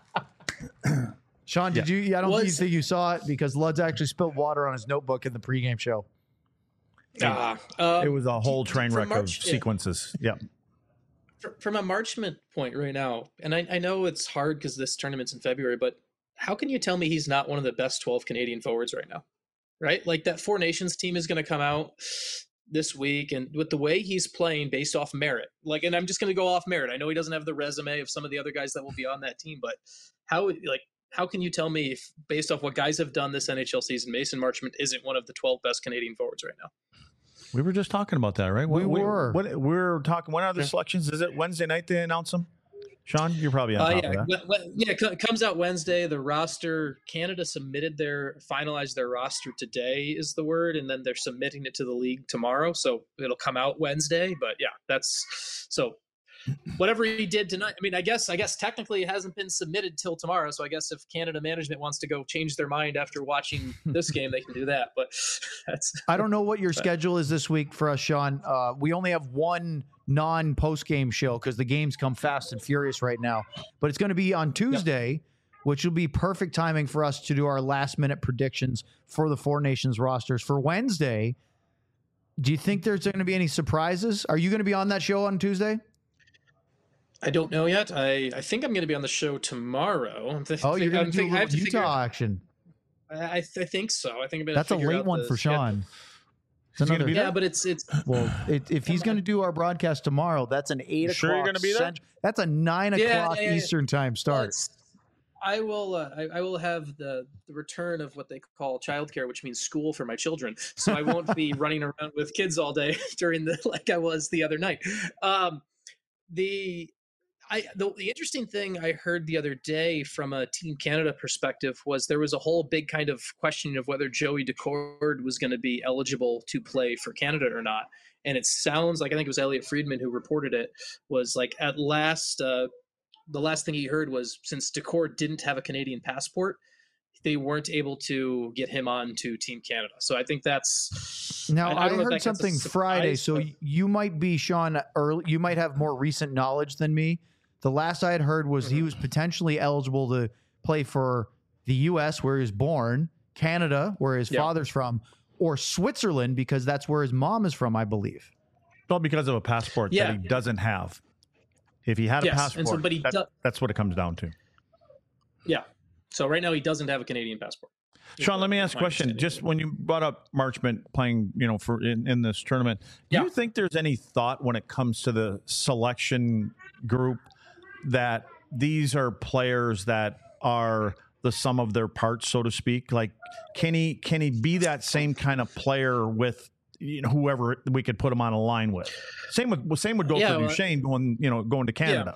Sean, did you? I don't Was- think you saw it because Luds actually spilled water on his notebook in the pregame show. Ah, uh, It was a whole train from wreck March- of yeah. sequences. Yeah. fr- from a Marchment point right now, and I, I know it's hard because this tournament's in February, but how can you tell me he's not one of the best twelve Canadian forwards right now? Right? Like that Four Nations team is going to come out this week, and with the way he's playing based off merit, like, and I'm just going to go off merit. I know he doesn't have the resume of some of the other guys that will be on that team, but how, like, how can you tell me if, based off what guys have done this N H L season, Mason Marchment isn't one of the twelve best Canadian forwards right now? We were just talking about that, right? We were. What, we're talking. When are the Yeah. selections? Is it Wednesday night they announce them? Sean, you're probably on Uh, top yeah, of that. we- we- yeah. It co- comes out Wednesday. The roster, Canada submitted their finalized their roster today is the word, and then they're submitting it to the league tomorrow. So it'll come out Wednesday. But yeah, that's so. Whatever he did tonight, I mean, I guess, I guess technically it hasn't been submitted till tomorrow. So I guess if Canada management wants to go change their mind after watching this game, they can do that. But that's I don't know what your schedule is this week for us, Sean. Uh, we only have one non-post game show because the games come fast and furious right now. But it's going to be on Tuesday, which will be perfect timing for us to do our last-minute predictions for the Four Nations rosters. For Wednesday, do you think there's going to be any surprises? Are you going to be on that show on Tuesday? I don't know yet. I, I think I'm going to be on the show tomorrow. I'm th- Oh, you're going I'm to do a think- I have little to Utah figure- action. I, I th- I think so. I think I'm going to. That's a late one for Sean. It's He's gonna another- be Yeah, there? but it's it's Well, it, if he's going to do our broadcast tomorrow, that's an eight You o'clock. sure you're gonna be there? Cent- That's a nine Yeah, o'clock yeah, yeah. Eastern time Well, start. it's- I will. Uh, I, I will have the the return of what they call childcare, which means school for my children. So I won't be running around with kids all day during the like I was the other night. Um, the I the, the interesting thing I heard the other day from a Team Canada perspective was there was a whole big kind of questioning of whether Joey Decord was going to be eligible to play for Canada or not. And it sounds like I think it was Elliot Friedman who reported it was like at last. Uh, the last thing he heard was since Decord didn't have a Canadian passport, they weren't able to get him on to Team Canada. So I think that's Now I- I I, don't know if heard that counts as a something Friday, surprise, so but- y- you might be Sean early. You might have more recent knowledge than me. The last I had heard was Mm-hmm. he was potentially eligible to play for the U S where he was born, Canada where his Yeah. father's from, or Switzerland because that's where his mom is from, I believe. Well, because of a passport Yeah. that he doesn't have. If he had a Yes, and passport, so- but he that- do- that's what it comes down to. yeah. So right now he doesn't have a Canadian passport. Sean, let me ask a My question. understanding. Just when you brought up Marchment playing, you know, for in, in this tournament, do Yeah. you think there's any thought when it comes to the selection group that these are players that are the sum of their parts, so to speak? Like, can he can he be that same kind of player with you know whoever we could put him on a line with? Same with same would go Yeah, for well, Duchesne going you know going to Canada.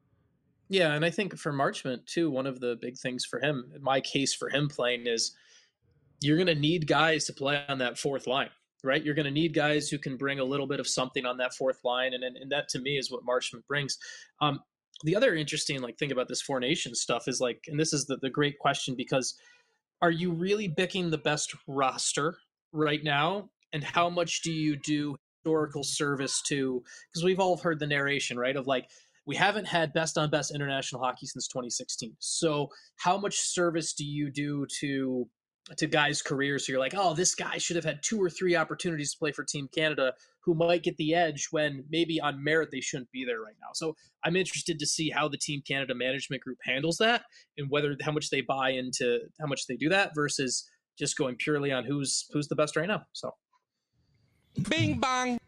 Yeah, and I think for Marchment too, one of the big things for him, my case for him playing is you're going to need guys to play on that fourth line, right? You're going to need guys who can bring a little bit of something on that fourth line, and and, and that to me is what Marchment brings. Um, the other interesting like thing about this Four Nations stuff is like, and this is the, the great question because are you really picking the best roster right now, and how much do you do historical service to, because we've all heard the narration, right, of like, we haven't had best on best international hockey since twenty sixteen. So how much service do you do to to guys' careers? So you're like, oh, this guy should have had two or three opportunities to play for Team Canada, who might get the edge when maybe on merit they shouldn't be there right now. So I'm interested to see how the Team Canada management group handles that, and whether how much they buy into how much they do that versus just going purely on who's who's the best right now. So Bing bang.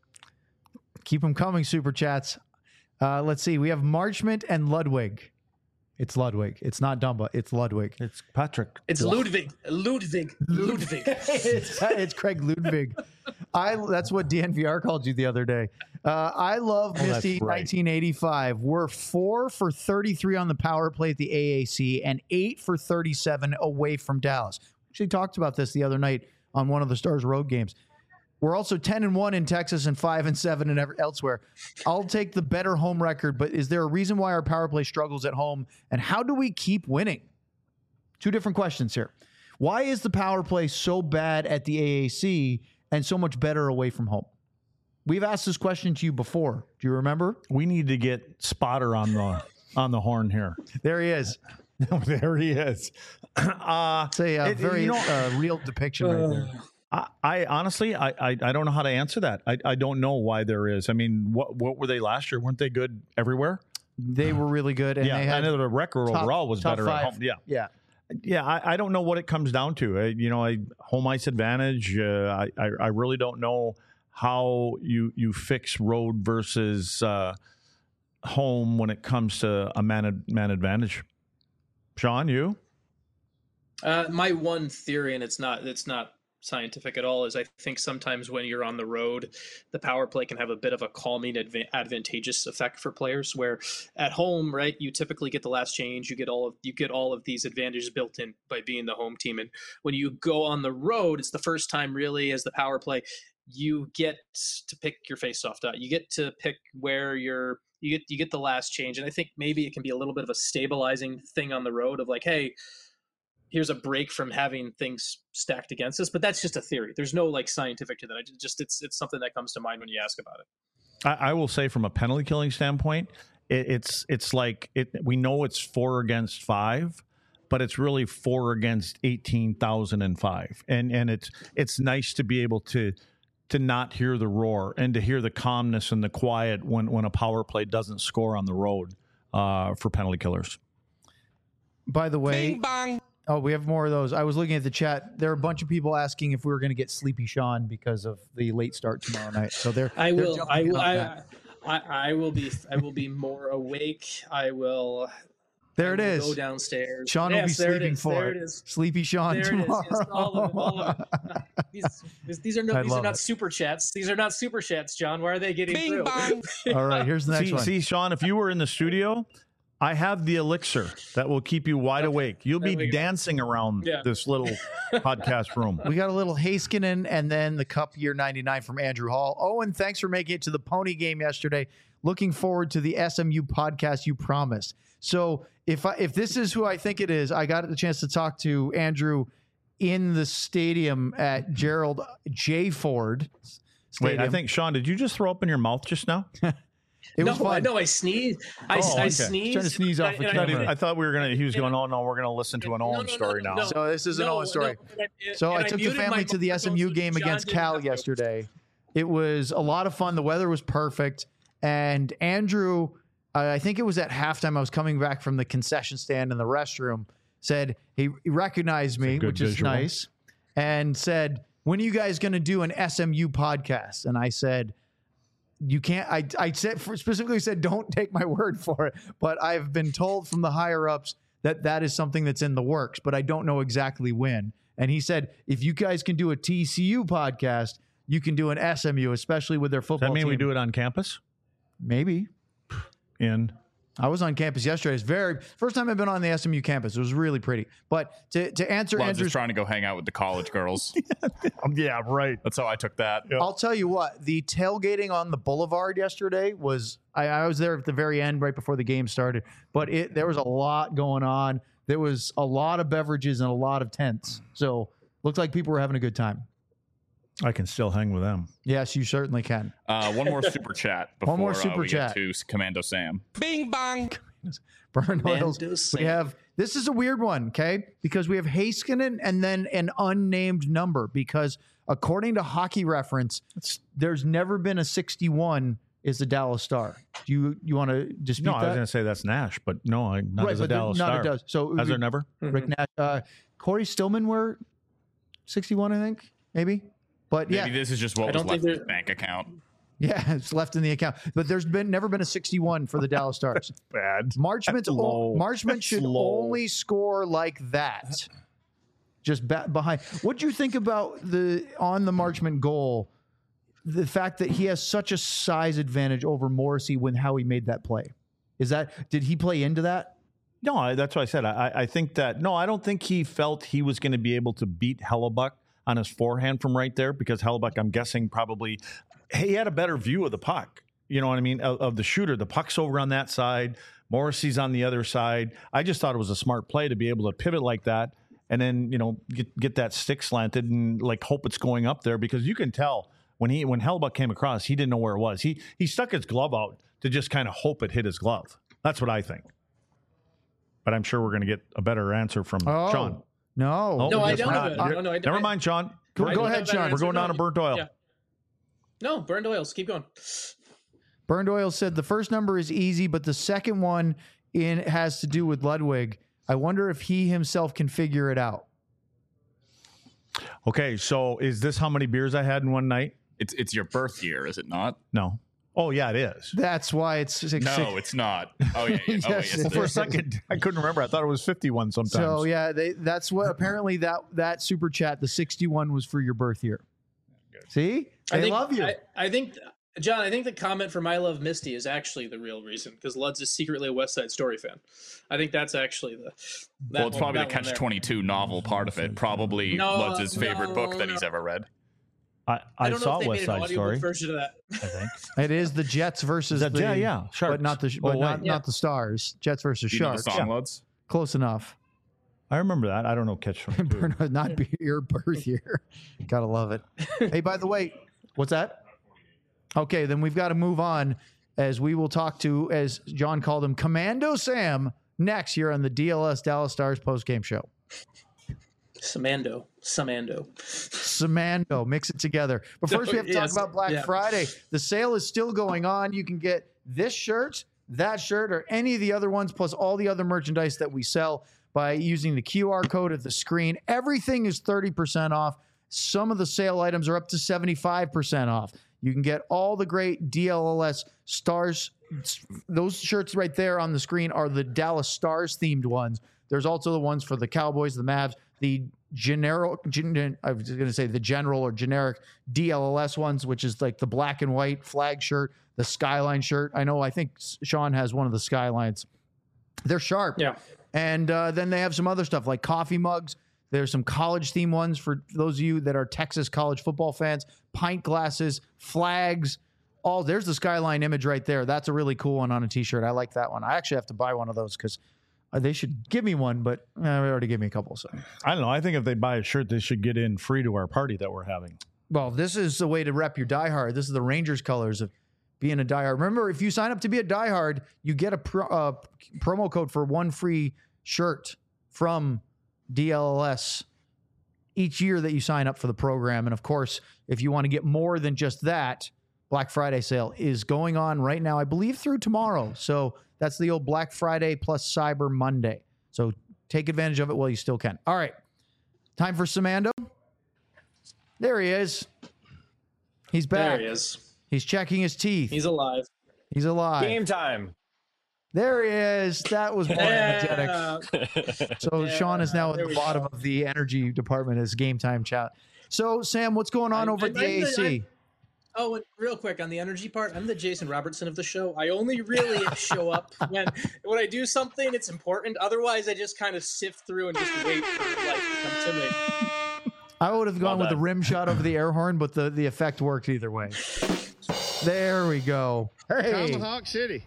Keep them coming, super chats. Uh, let's see. We have Marchment and Ludwig. It's Ludwig. It's not Dumba. It's Ludwig. It's Patrick. it's Ludwig, Ludwig, Ludwig. it's, it's Craig Ludwig. I. That's what D N V R called you the other day. Uh, I love Oh, that's Misty right. nineteen eighty-five. We're four for thirty-three on the power play at the A A C and eight for thirty-seven away from Dallas. We actually talked about this the other night on one of the Stars road games. We're also ten and one in Texas and five and seven and every, elsewhere. I'll take the better home record, but is there a reason why our power play struggles at home, and how do we keep winning? Two different questions here. Why is the power play so bad at the A A C and so much better away from home? We've asked this question to you before. Do you remember? We need to get Spotter on the on the horn here. There he is. There he is. Uh, It's a uh, it- very you know, uh, real depiction right there. I, I honestly, I, I, I don't know how to answer that. I, I don't know why there is. I mean, what what were they last year? Weren't they good everywhere? They were really good, and yeah, they had I know the record top- overall was top better five. at home. Yeah, Yeah. yeah. I, I don't know what it comes down to. I, you know, I home ice advantage. Uh, I, I I really don't know how you you fix road versus uh, home when it comes to a man man advantage. Sean, you? Uh, my one theory, and it's not it's not scientific at all, is I think sometimes when you're on the road, the power play can have a bit of a calming adva- advantageous effect for players, where at home, right, you typically get the last change, you get all of you get all of these advantages built in by being the home team. And when you go on the road, it's the first time really as the power play you get to pick your face-off dot. You get to pick where you're you get you get the last change. And I think maybe it can be a little bit of a stabilizing thing on the road of like, hey, here's a break from having things stacked against us. But that's just a theory. There's no like scientific to that. I just it's it's something that comes to mind when you ask about it. I, I will say from a penalty killing standpoint, it, it's it's like it. We know it's four against five, but it's really four against eighteen thousand and five, and and it's it's nice to be able to to not hear the roar and to hear the calmness and the quiet when when a power play doesn't score on the road uh, for penalty killers. By the way, Bing bang. oh, we have more of those. I was looking at the chat. There are a bunch of people asking if we were going to get Sleepy Sean because of the late start tomorrow night. So they're I they're will. jumping I in will. on I, that. I, I will be. I will be more awake. I will. There it I will is. Go downstairs. Sean yes, will be there sleeping it is. for there it. it is. Sleepy Sean There it is. tomorrow. Yes, all of it. All of it. These, these- these are no. I These love are not it. super chats. These are not super chats, John. Why are they getting Bing through? bang. All right, here's the next See, one. see, Sean, if you were in the studio, I have the elixir that will keep you wide awake. You'll There be we go. dancing around Yeah. this little podcast room. We got a little Haskinen and then the Cup Year ninety-nine from Andrew Hall. Owen, thanks for making it to the Pony game yesterday. Looking forward to the S M U podcast you promised. So if I, if this is who I think it is, I got the chance to talk to Andrew in the stadium at Gerald J. Ford Stadium. Wait, I think, Sean, did you just throw up in your mouth just now? it no, was I fun. know I sneezed. I, Oh, I okay. sneezed. Trying to sneeze off and the I- I, and I- camera. I thought we were gonna. He was And going, I- "Oh no, we're gonna listen to an No, Owen no, no, story no, now." no. So this is an No, Owen story. no, and I- So and I took the muted family my to the S M U microphone so game John against didn't Cal have to. yesterday. It was a lot of fun. The weather was perfect. And Andrew, uh, I think it was at halftime, I was coming back from the concession stand in the restroom, said he, he recognized me, good which is visual. nice, and said, when are you guys going to do an S M U podcast? And I said, you can't, I, I said specifically said, don't take my word for it. But I've been told from the higher ups that that is something that's in the works, but I don't know exactly when. And he said, if you guys can do a T C U podcast, you can do an S M U, especially with their Does football that mean team. we do it on campus? Maybe. In I was on campus yesterday. It's very first time I've been on the S M U campus. It was really pretty. But to, to answer Well, I was Andrew's, just trying to go hang out with the college girls. yeah, right. That's how I took that. I'll tell you what, the tailgating on the boulevard yesterday was, I, I was there at the very end right before the game started, but it there was a lot going on. There was a lot of beverages and a lot of tents. So looked like people were having a good time. I can still hang with them. Yes, you certainly can. Uh, one more super chat before One more uh, super we chat. get to Commando Sam. Bing bang. Burn oils. Mando We Sam. have this is a weird one, okay? Because we have Heiskanen and then an unnamed number. Because according to Hockey Reference, there's never been a sixty-one is the Dallas Star. Do you you want to dispute No, that? I was going to say that's Nash, but no, I, not right, as a but there- Dallas not Star. it does. So Has we- there never? Rick Nash, uh, Corey Stillman were sixty-one, I think, maybe. But Maybe yeah, this is just what I was don't left think in his bank account. yeah, it's left in the account. But there's been never been a sixty-one for the Dallas Stars. Bad. Marchment, That's low. Marchment That's should low. only score like that. Just ba- behind. What do you think about the on the Marchment goal? The fact that he has such a size advantage over Morrissey when how he made that play. Is that did he play into that? No, I, that's what I said. I, I think that, no, I don't think he felt he was going to be able to beat Hellebuck on his forehand from right there because Hellebuck, I'm guessing, probably, he had a better view of the puck. You know what I mean? Of, of the shooter. The puck's over on that side. Morrissey's on the other side. I just thought it was a smart play to be able to pivot like that and then, you know, get, get that stick slanted and like hope it's going up there because you can tell when he when Hellebuck came across, he didn't know where it was. He he stuck his glove out to just kind of hope it hit his glove. That's what I think. But I'm sure we're going to get a better answer from Oh, Sean. no. Oh, No, I guess don't we're have not. it. No, no, I- Never I- mind, Sean. Go, I go don't ahead, have that Sean. answer. We're going No, down to burnt oil. yeah. No, burned oils. Keep going. Burned Oil said the first number is easy, but the second one in has to do with Ludwig. I wonder if he himself can figure it out. Okay, so is this how many beers I had in one night? It's it's your birth year, is it not? No. Oh, yeah, it is. That's why it's six. No, six- it's not. Oh yeah. yeah. Oh, Yes, yes, it it For a is. second, I couldn't remember. I thought it was fifty-one sometimes. So yeah, they, that's what apparently that that super chat, the sixty-one was for your birth year. See, they I think, love you. I, I think, John, I think the comment from I Love Misty is actually the real reason because Lud's is secretly a West Side Story fan. I think that's actually the. That Well, it's one- probably the that one Catch there. twenty-two novel part of it. Probably No, Lutz's favorite no, book that no. he's ever read. I, I I don't know saw if they West made an Side audiobook Story. version of that. I think. It is the Jets versus That- the yeah, yeah, Sharks. but not the Oh, but not wait. not the Stars. Jets versus Do you know the Sharks. song, Lutz? Close enough. I remember that. I don't know Catch twenty-two. Not be your birth year. Gotta love it. Hey, by the way, what's that? Okay, then we've got to move on as we will talk to, as John called him, Commando Sam next here on the D L S Dallas Stars postgame show. Samando. Samando. Samando, mix it together. But first, we have to Yes, talk about Black yeah. Friday. The sale is still going on. You can get this shirt, that shirt, or any of the other ones, plus all the other merchandise that we sell by using the Q R code at the screen. Everything is thirty percent off. Some of the sale items are up to seventy-five percent off. You can get all the great D L L S Stars. Those shirts right there on the screen are the Dallas Stars themed ones. There's also the ones for the Cowboys, the Mavs, the general, gen, I was going to say the general or generic D L L S ones, which is like the black and white flag shirt, the Skyline shirt. I know, I think Sean has one of the Skylines. They're sharp. Yeah. And uh, then they have some other stuff like coffee mugs. There's some college theme ones for those of you that are Texas college football fans, pint glasses, flags. All there's the Skyline image right there. That's a really cool one on a t-shirt. I like that one. I actually have to buy one of those because uh, they should give me one, but uh, they already gave me a couple. So, I don't know. I think if they buy a shirt, they should get in free to our party that we're having. well, this is the way to rep your diehard. This is the Rangers colors of being a diehard. Remember, if you sign up to be a diehard, you get a pro, uh, promo code for one free shirt from D L L S each year that you sign up for the program. And of course, if you want to get more than just that, Black Friday sale is going on right now, I believe through tomorrow. So that's the old Black Friday plus Cyber Monday. So take advantage of it while you still can. All right. Time for Samando. There he is. He's back. There he is. He's checking his teeth. He's, He's alive. alive. Game time. There he is. That was more energetic. Yeah. So Yeah, Sean is now at there the we bottom go. of the energy department as game time chat. So Sam, what's going on I- over I- at the I'm A A C? I'm- Oh, and real quick on the energy part, I'm the Jason Robertson of the show. I only really show up when when I do something it's important. Otherwise, I just kind of sift through and just wait for life to come to me. I would have gone Well with the done. rim shot over the air horn, but the, the effect worked either way. There we go. Hey, Tomahawk City.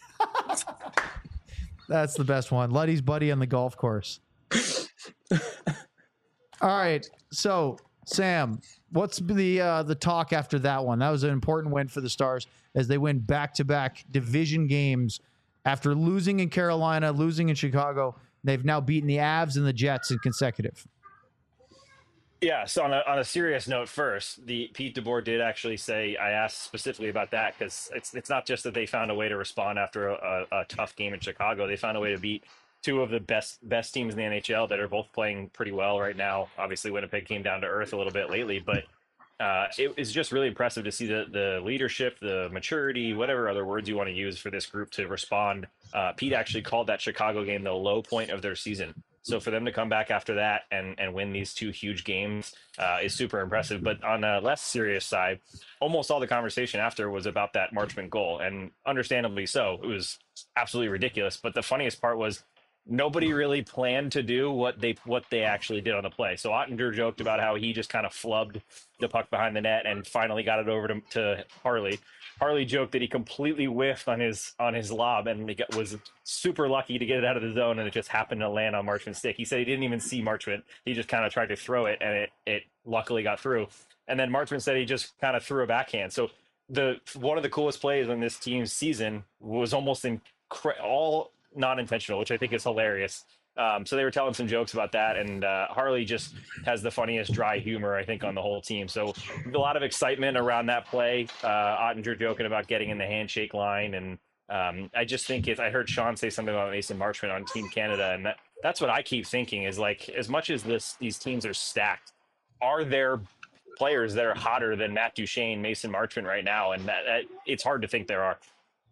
that's the best one. Luddy's buddy on the golf course. All right. So Sam, what's the uh, the talk after that one? That was an important win for the Stars as they win back-to-back division games after losing in Carolina, losing in Chicago. They've now beaten the Avs and the Jets in consecutive. Yeah, so on a, on a serious note first, the Pete DeBoer did actually say, I asked specifically about that because it's it's not just that they found a way to respond after a, a, a tough game in Chicago. They found a way to beat two of the best best teams in the N H L that are both playing pretty well right now. Obviously, Winnipeg came down to earth a little bit lately, but uh, it is just really impressive to see the, the leadership, the maturity, whatever other words you want to use for this group to respond. Uh, Pete actually called that Chicago game the low point of their season. So for them to come back after that and, and win these two huge games uh, is super impressive. But on a less serious side, almost all the conversation after was about that Marchment goal, and understandably so. It was absolutely ridiculous. But the funniest part was nobody really planned to do what they what they actually did on the play. So Ottinger joked about how he just kind of flubbed the puck behind the net and finally got it over to, to Harley. Harley joked that he completely whiffed on his on his lob and he got, was super lucky to get it out of the zone, and it just happened to land on Marchment's stick. He said he didn't even see Marchment. He just kind of tried to throw it, and it it luckily got through. And then Marchment said he just kind of threw a backhand. So the one of the coolest plays on this team's season was almost in all non-intentional, which I think is hilarious. Um, so they were telling some jokes about that, and uh, Harley just has the funniest dry humor, I think, on the whole team. So a lot of excitement around that play. Uh, Ottinger joking about getting in the handshake line, and um, I just think it's, I heard Sean say something about Mason Marchment on Team Canada, and that, that's what I keep thinking is, like, as much as this these teams are stacked, are there players that are hotter than Matt Duchene, Mason Marchment right now? And that, that it's hard to think there are.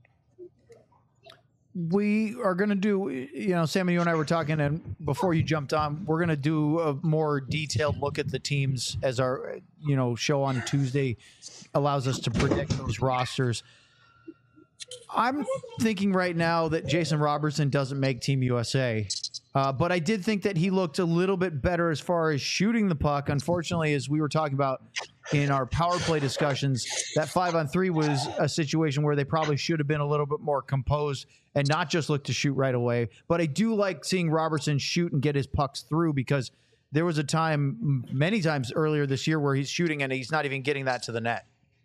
We are going to do, you know, Sam and you and I were talking, and before you jumped on, we're going to do a more detailed look at the teams as our, you know, show on Tuesday allows us to predict those rosters. I'm thinking right now that Jason Robertson doesn't make Team U S A, uh, but I did think that he looked a little bit better as far as shooting the puck. Unfortunately, as we were talking about in our power play discussions, that five on three was a situation where they probably should have been a little bit more composed and not just look to shoot right away. But I do like seeing Robertson shoot and get his pucks through, because there was a time, many times earlier this year, where he's shooting and he's not even getting that to the net.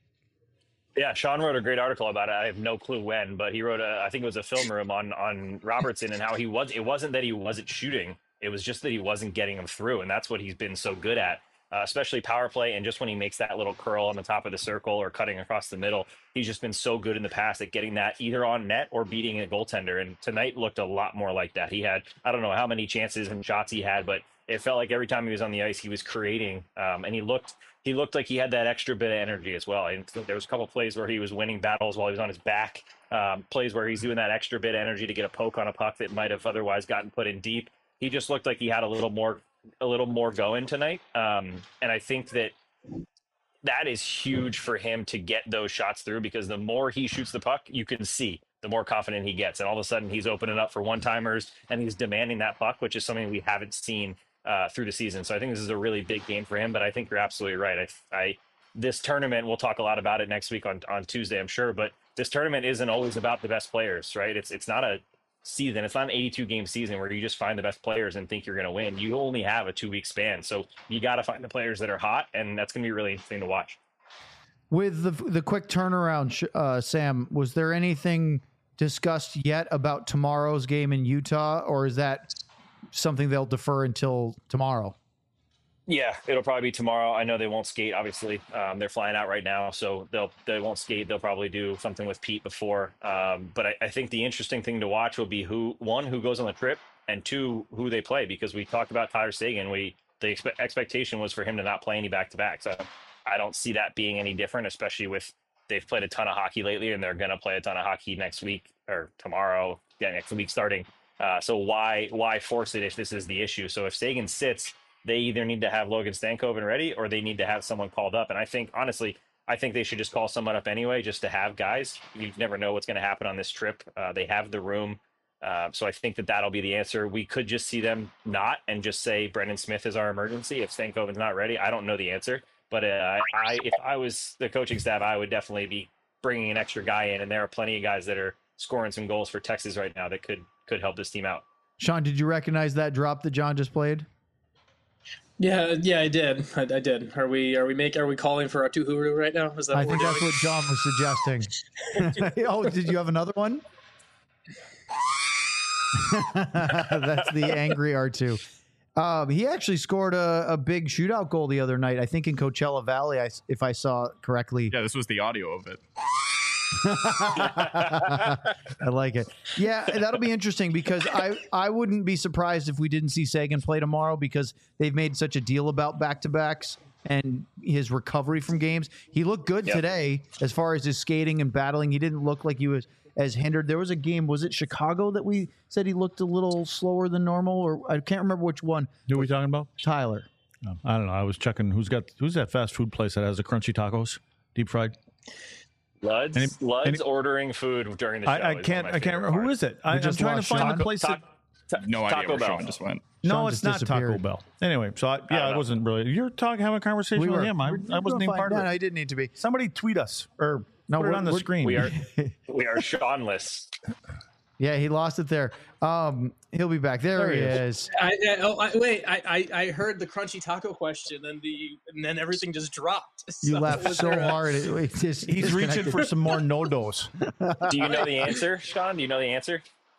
Yeah, Sean wrote a great article about it. I have no clue when, but he wrote a, I think it was a film room on, on Robertson and how he was, it wasn't that he wasn't shooting. It was just that he wasn't getting them through. And that's what he's been so good at, uh, especially power play. And just when he makes that little curl on the top of the circle or cutting across the middle, he's just been so good in the past at getting that either on net or beating a goaltender. And tonight looked a lot more like that. He had, I don't know how many chances and shots he had, but it felt like every time he was on the ice, he was creating, um, and he looked he looked like he had that extra bit of energy as well. And there was a couple of plays where he was winning battles while he was on his back, um, plays where he's doing that extra bit of energy to get a poke on a puck that might have otherwise gotten put in deep. He just looked like he had a little more a little more going tonight, um, and I think that that is huge for him to get those shots through, because the more he shoots the puck, you can see the more confident he gets, and all of a sudden he's opening up for one-timers and he's demanding that puck, which is something we haven't seen Uh, through the season. So I think this is a really big game for him, but I think you're absolutely right. I, I, this tournament, we'll talk a lot about it next week on, on Tuesday, I'm sure, but this tournament isn't always about the best players, right? It's, it's not a season. It's not an eighty-two game season where you just find the best players and think you're going to win. You only have a two week span. So you got to find the players that are hot, and that's going to be really interesting to watch. With the, the quick turnaround, uh, Sam, was there anything discussed yet about tomorrow's game in Utah, or is that something they'll defer until tomorrow? Yeah, it'll probably be tomorrow. I know they won't skate, obviously. Um, they're flying out right now, so they'll they won't skate. They'll probably do something with Pete before. Um, but I, I think the interesting thing to watch will be who one who goes on the trip, and two who they play, because we talked about Tyler Seguin. We the expe- expectation was for him to not play any back to back. So I don't see that being any different, especially with they've played a ton of hockey lately, and they're going to play a ton of hockey next week or tomorrow. Yeah, next week starting. Uh, so why why force it if this is the issue? So if Seguin sits, they either need to have Logan Stankoven ready, or they need to have someone called up. And I think, honestly, I think they should just call someone up anyway, just to have guys. You never know what's going to happen on this trip. Uh, they have the room. Uh, so I think that that'll be the answer. We could just see them not and just say Brendan Smith is our emergency if Stankoven's not ready. I don't know the answer. But uh, I, if I was the coaching staff, I would definitely be bringing an extra guy in. And there are plenty of guys that are scoring some goals for Texas right now that could could help this team out. Sean, did you recognize that drop that John just played? Yeah, yeah, I did. I, I did. Are we? Are we make? Are we calling for our two Huru right now? Is that? I what think we're that's doing? what John was suggesting. Oh, did you have another one? That's the angry R two. Um, he actually scored a, a big shootout goal the other night, I think in Coachella Valley, I, if I saw correctly. Yeah, this was the audio of it. I like it. Yeah, that'll be interesting because I, I wouldn't be surprised if we didn't see Sagan play tomorrow because they've made such a deal about back-to-backs and his recovery from games. He looked good Yep. today as far as his skating and battling. He didn't look like he was as hindered. There was a game, was it Chicago, that we said he looked a little slower than normal, or I can't remember which one. Who are we talking about? Tyler. No, I don't know. I was checking who's got who's that fast food place that has the crunchy tacos, deep fried. Luds, Any- Luds any- ordering food during the show. I, I is one can't. of my I can't favorite remember who parts. is it. I, I'm just trying to lost find Sean. the place. Ta- That, ta- No idea Taco where Bell. Sean just went. no, Sean it's just not Taco disappeared. Bell. Anyway, so I, yeah, don't I, know. wasn't really. You're talking, having a conversation We with were. him. I, We're I wasn't doing even fine. part No, of no, it. I didn't need to be. Somebody tweet us or No, put it we're- on the we're- screen. We are we are Seanless. Yeah, he lost it there. Um, he'll be back. There, There he he is. is. I, I, oh, I, wait. I, I, I heard the crunchy taco question, and the and then everything just dropped. You So laughed was so there a- hard. It, it just He's reaching disconnected. for some more no dos. Do you know the answer, Sean? Do you know the answer?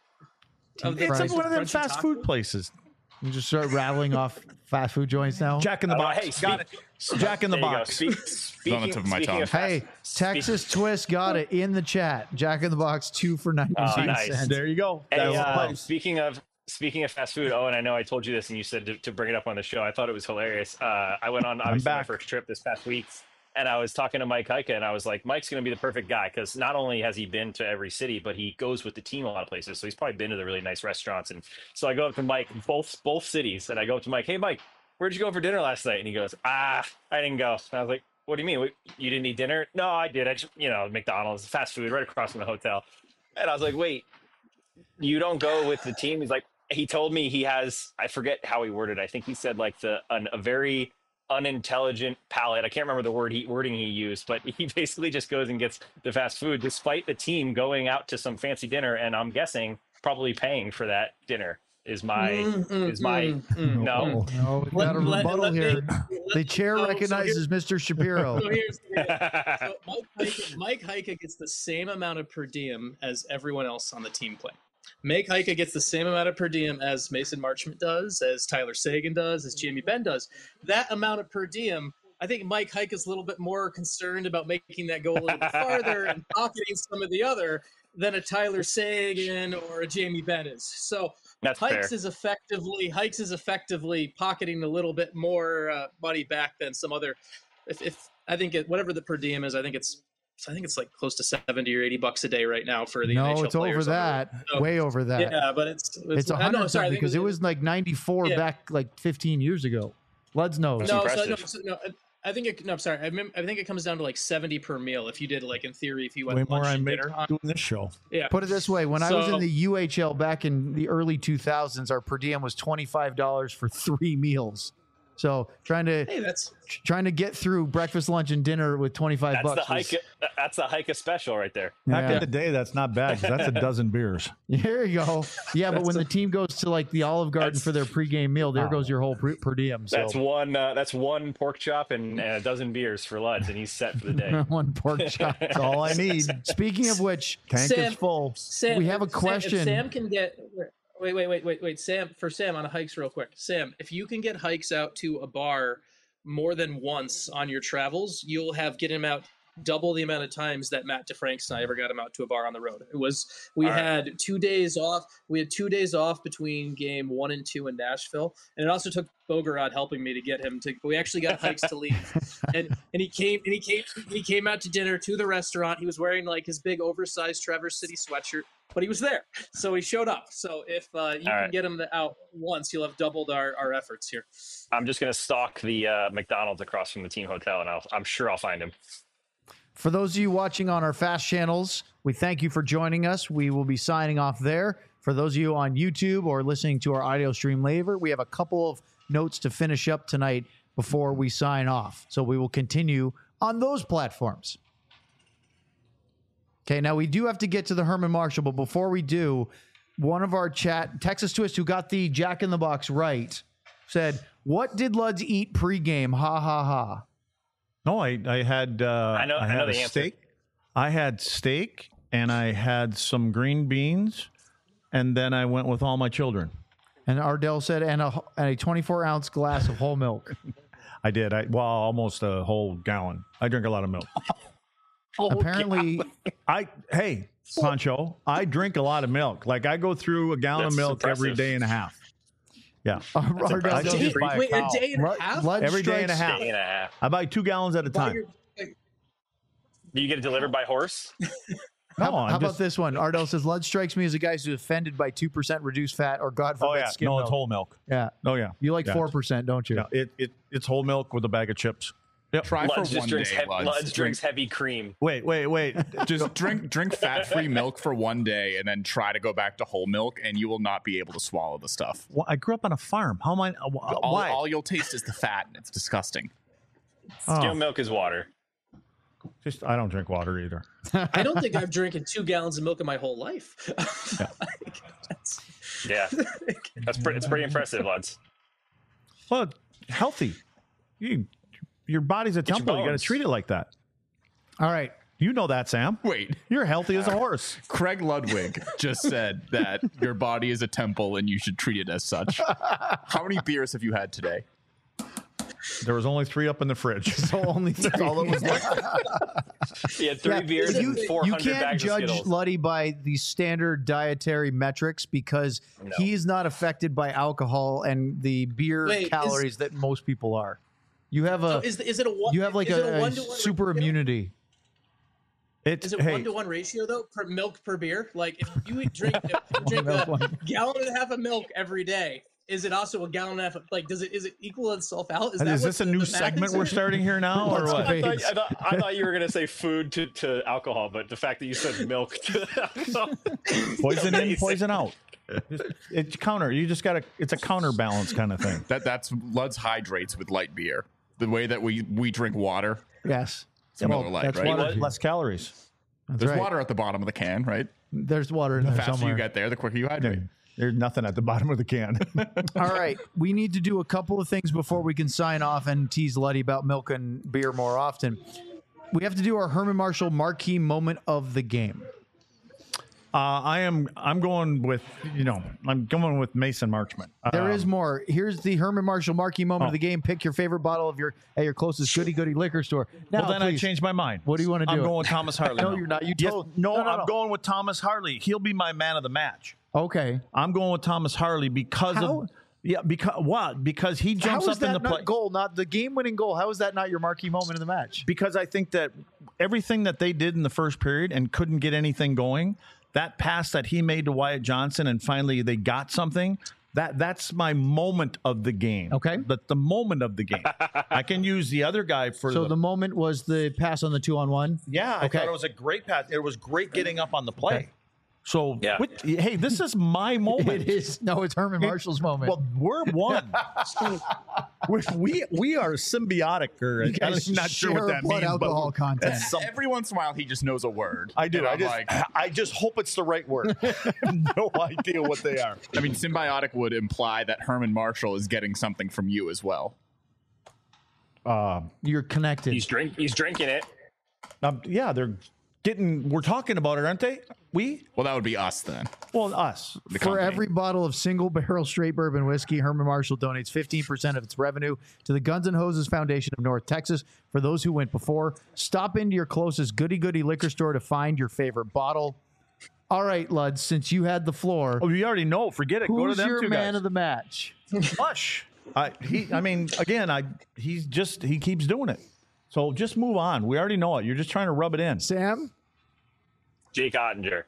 of the It's Christ. like one of them crunchy fast taco? food places. You just start rattling off fast food joints now. Jack in the Oh, Box. hey, got speak- it. Jack in the There you go. Box. Speak, on the speaking, tip of my speaking tongue. of fast- Hey, Texas Twist got it in the chat. Jack in the Box, two for ninety-nine Oh, nice. cents. There you go. Hey, That's the uh, place. speaking of speaking of fast food, oh, and I know I told you this, and you said to, to bring it up on the show. I thought it was hilarious. Uh, I went on obviously my back. first trip this past week, and I was talking to Mike Heike, and I was like, Mike's going to be the perfect guy because not only has he been to every city, but he goes with the team a lot of places. So he's probably been to the really nice restaurants. And so I go up to Mike, both both cities, and I go up to Mike, hey Mike, where'd you go for dinner last night? And he goes, ah, I didn't go. And I was like, what do you mean? What, you didn't eat dinner? No, I did. I just, you know, McDonald's, fast food, right across from the hotel. And I was like, wait, you don't go with the team? He's like, he told me he has, I forget how he worded it. I think he said like the an, a very unintelligent palate. I can't remember the word he, wording he used, but he basically just goes and gets the fast food despite the team going out to some fancy dinner. And I'm guessing probably paying for that dinner is my, Mm, mm, is my, mm, mm, no. mm. No, we Let- got a let- rebuttal let me- here. let- The chair so- so recognizes Mister Shapiro. So here's the so Mike Heike, Mike Heike gets the same amount of per diem as everyone else on the team playing. Mike Heike gets the same amount of per diem as Mason Marchment does, as Tyler Sagan does, as Jamie Benn does. That amount of per diem, I think Mike Heike is a little bit more concerned about making that go a little bit farther and pocketing some of the other than a Tyler Sagan or a Jamie Benn is. So That's Hikes fair. is effectively Hikes is effectively pocketing a little bit more uh, money back than some other. If, if I think it, whatever the per diem is, I think it's I think it's like close to seventy or eighty bucks a day right now for the N H L No, it's over players on the road. that. So- Way over that. Yeah, but it's It's a I know, hundred sorry, I think because it was like ninety-four Yeah. back like fifteen years ago. Luds knows. That's no, so, impressive. no, so, no, I think it, no, I'm sorry. I, mem- I think it comes down to like seventy per meal. If you did like in theory, if you went Way more lunch I and make dinner, on, doing this show. yeah. Put it this way: when I was in So- the U H L back in the early two thousands, our per diem was twenty-five dollars for three meals. So trying to Hey, that's trying to get through breakfast, lunch, and dinner with twenty-five That's the bucks. was- hike. That's the hike special right there. Back Yeah. in the day, that's not bad 'cause that's a dozen beers. Here you go. Yeah, but when the team goes to like the Olive Garden That's- for their pregame meal, there Oh. goes your whole per, per diem. So That's one. Uh, that's one pork chop and, and a dozen beers for Luds, and he's set for the day. one pork chop. That's all I need. Speaking of which, tank Sam- is full. Sam, we have a if Sam- question. If Sam can get wait, wait, wait, wait, wait. Sam, for Sam on a hikes, real quick. Sam, if you can get hikes out to a bar more than once on your travels, you'll have get him out double the amount of times that Matt DeFranks and I ever got him out to a bar on the road. It was we All right. had two days off. We had two days off between game one and two in Nashville, and it also took Bogorod helping me to get him to. We actually got hikes to leave, and and he came and he came he came out to dinner to the restaurant. He was wearing like his big oversized Traverse City sweatshirt, but he was there, so he showed up. So if uh, you All can right. get him out once, you'll have doubled our, our efforts here. I'm just gonna stalk the uh, McDonald's across from the team hotel, and I'll, I'm sure I'll find him. For those of you watching on our fast channels, we thank you for joining us. We will be signing off there. For those of you on YouTube or listening to our audio stream later, we have a couple of notes to finish up tonight before we sign off. So we will continue on those platforms. Okay, now we do have to get to the Herman Marshall, but before we do, one of our chat, Texas Twist, who got the Jack in the Box right, said, What did Luds eat pregame? Ha ha ha. No, I I had uh, I know- I had know a the answer. steak. I had steak and I had some green beans, and then I went with all my children. And Ardell said, and a, and a twenty-four ounce glass of whole milk. I did. I well, almost a whole gallon. I drink a lot of milk. Apparently, I hey, Pancho, I drink a lot of milk. Like I go through a gallon That's of milk every impressive. day and a half. Yeah, Ardell I says, just buy a Wait, a cow. day and a Lud- half? Lud Every day and a strikes- half. Day and a half. I buy two gallons at a While time. you're- Do you get it delivered by horse? No, How, I'm how about just- this one? Ardell says, Lud strikes me as a guy who's offended by two percent reduced fat or, God forbid, Oh yeah, skim no, milk. it's whole milk. Yeah. Oh yeah, You like Yeah, four percent, don't you? Yeah, it, it it's whole milk with a bag of chips. Yep. Try Luds for just one drinks, day, heavy, Luds. Luds Drink- drinks heavy cream. Wait, wait, wait. Just drink drink fat free milk for one day, and then try to go back to whole milk, and you will not be able to swallow the stuff. Well, I grew up on a farm. How am I? Uh, All, why? all you'll taste is the fat, and it's disgusting. Oh, Skim milk is water. just I don't drink water either. I don't think I've drinking two gallons of milk in my whole life. Like, that's- Yeah, that's pretty. It's pretty impressive, Luds. Well, healthy. You, your body's a your temple. You got to bones. treat it like that. All right. You know that, Sam. Wait, You're healthy as a horse. Craig Ludwig just said that your body is a temple and you should treat it as such. How many beers have you had today? There was only three up in the fridge. So only That's all that was left. He had three Yeah, beers you, and four you hundred can't bags of judge Skittles. Luddy by the standard dietary metrics because No. he's not affected by alcohol and the beer Wait, is- calories that most people are. You have a So is, is it a one? you have like is it a, a one-to-one super ratio? immunity. It's Is it hey, one to one ratio though per milk per beer? Like if you eat, drink if you drink milk, a one- gallon and a half of milk every day, is it also a gallon and a half? Of, like does it is it equal itself out? Is, that is what this a the- new the math segment is? we're starting here now, or Let's what? go. I thought, I, thought, I thought you were going to say food to, to alcohol, but the fact that you said milk to alcohol. Poison in, Amazing. poison out. Just- It's counter. You just got to. It's a counterbalance kind of thing. That that's Lud's hydrates with light beer. The way that we we drink water. Yes. It's Miller Lite, that's right? water. What? Less calories. That's There's right. water at the bottom of the can, right? There's water in The there faster somewhere. you get there, the quicker you hydrate. There's nothing at the bottom of the can. All right. We need to do a couple of things before we can sign off and tease Luddy about milk and beer more often. We have to do our Herman Marshall marquee moment of the game. Uh, I am. I'm going with. You know. I'm going with Mason Marchman. There Um, is more. Here's the Herman Marshall marquee moment Oh. of the game. Pick your favorite bottle of your at your closest goody goody liquor store. Now, Well, then I please. changed my mind. What do you wanna I'm do? going with Thomas Harley. No, now. you're not. You Yes, told- no, no, no, I'm no. going with Thomas Harley. He'll be my man of the match. Okay. I'm going with Thomas Harley because How? of yeah. Because what? Because he jumps How is up in that the not play. goal? Not the game winning goal. How is that not your marquee moment in the match? Because I think that everything that they did in the first period and couldn't get anything going, that pass that he made to Wyatt Johnson and finally they got something, that that's my moment of the game. Okay. But the moment of the game. I can use the other guy for So the, the moment was the pass on the two on one. yeah, I Okay. thought it was a great pass. It was great getting up on the play. Okay. So Yeah. with- hey, this is my moment. It is no, it's Herman Marshall's moment. Well, we're one. we we we are symbiotic, or guys I'm not sure what share that blood means. alcohol but content. that's some- Every once in a while, he just knows a word. I do. And I I'm just like, I just hope it's the right word. No idea what they are. I mean, symbiotic would imply that Herman Marshall is getting something from you as well. Uh, You're connected. He's drink. He's drinking it. um, yeah, they're getting. We're talking about it, aren't they? We? Well, that would be us then. Well, us. The For company. every bottle of single barrel straight bourbon whiskey, Herman Marshall donates fifteen percent of its revenue to the Guns N' Hoses Foundation of North Texas. For those who went before, stop into your closest goody goody liquor store to find your favorite bottle. All right, Lud, since you had the floor, Oh, you already know. Forget it. Go to who's them your two man guys. of the match? Hush. I he. I mean, again, I. He's just. He keeps doing it. So just move on. We already know it. You're just trying to rub it in. Sam? Jake Ottinger.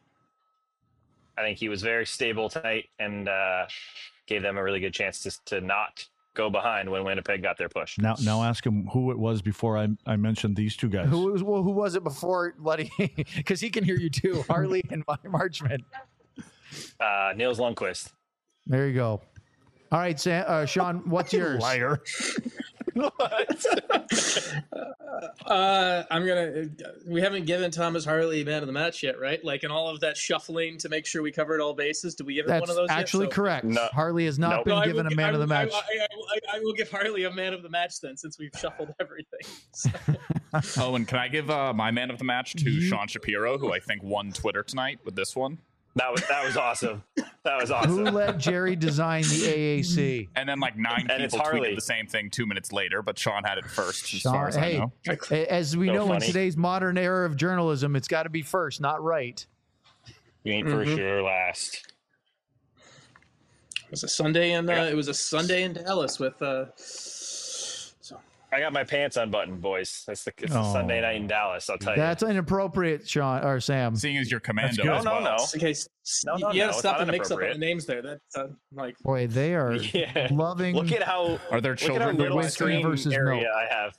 I think he was very stable tonight and uh, gave them a really good chance to to not go behind when Winnipeg got their push. Now, now ask him who it was before I, I mentioned these two guys. Who was well, who was it before Luddy? Because he can hear you too. Harley and Marchman. Uh, Niels Lundqvist. There you go. All right, Sam, uh, Sean, what's yours? Liar. Uh, I'm gonna. We haven't given Thomas Harley man of the match yet, right? Like in all of that shuffling to make sure we covered all bases. Did we give him That's one of those? actually yet? So, correct. No. Harley has not Nope. been No, I given will a gi- man I of the will- I- match. I, I, I, I will give Harley a man of the match then, since we've shuffled everything. So, Oh, and can I give uh, my man of the match to You- Sean Shapiro, who I think won Twitter tonight with this one? That was that was awesome. That was Who awesome. let Jerry design the A A C? And then like nine And it's people Harley. tweeted the same thing two minutes later, but Sean had it first, as Sean- far as hey, I know. A- As we So know, in funny. today's modern era of journalism, it's got to be first, not right. You ain't for sure last. it was a Sunday in. Uh, it was a Sunday in Dallas with. Uh, so I got my pants unbuttoned, boys. That's the it's a Oh. Sunday night in Dallas. I'll tell you. That's inappropriate, Sean or Sam. Seeing as your commando good. as No, well. no, no. okay, s- No, no, you no, gotta it's stop not the mix up on the inappropriate. names there. That's uh, like. Boy, they are Yeah. loving. Look at how Are there look at how children little going whiskey screen versus area milk? I have.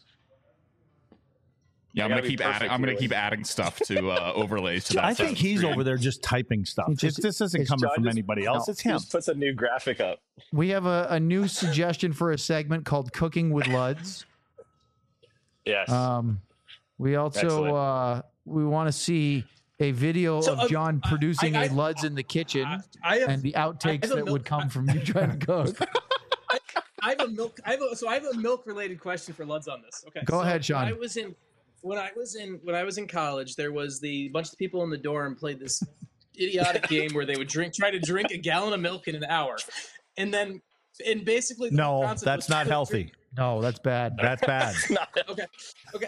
Yeah, I I'm gotta gonna be keep perfect adding. I'm gonna here, keep Wade. adding stuff to uh, overlays to that. I think second he's screen. over there just typing stuff. It's It's, just- this isn't it's coming John from just- anybody else. no. It's him. Just puts a new graphic up. We have a, a new suggestion for a segment called "Cooking with Luds." Yes. Um, we also Excellent. uh, we want to see a video So, of uh, John I- producing I- a Luds in the kitchen I, I have. and the outtakes have a that would milk- come from you trying to cook. I have a milk. I have a, so I have a milk related question for Luds on this. Okay. Go so ahead, Sean. When I was in when I was in when I was in college, there was the bunch of people in the dorm played this idiotic game where they would drink try to drink a gallon of milk in an hour, and then and basically the No, concept that's was not to healthy. drink- No, that's bad. That's bad. Okay. Okay.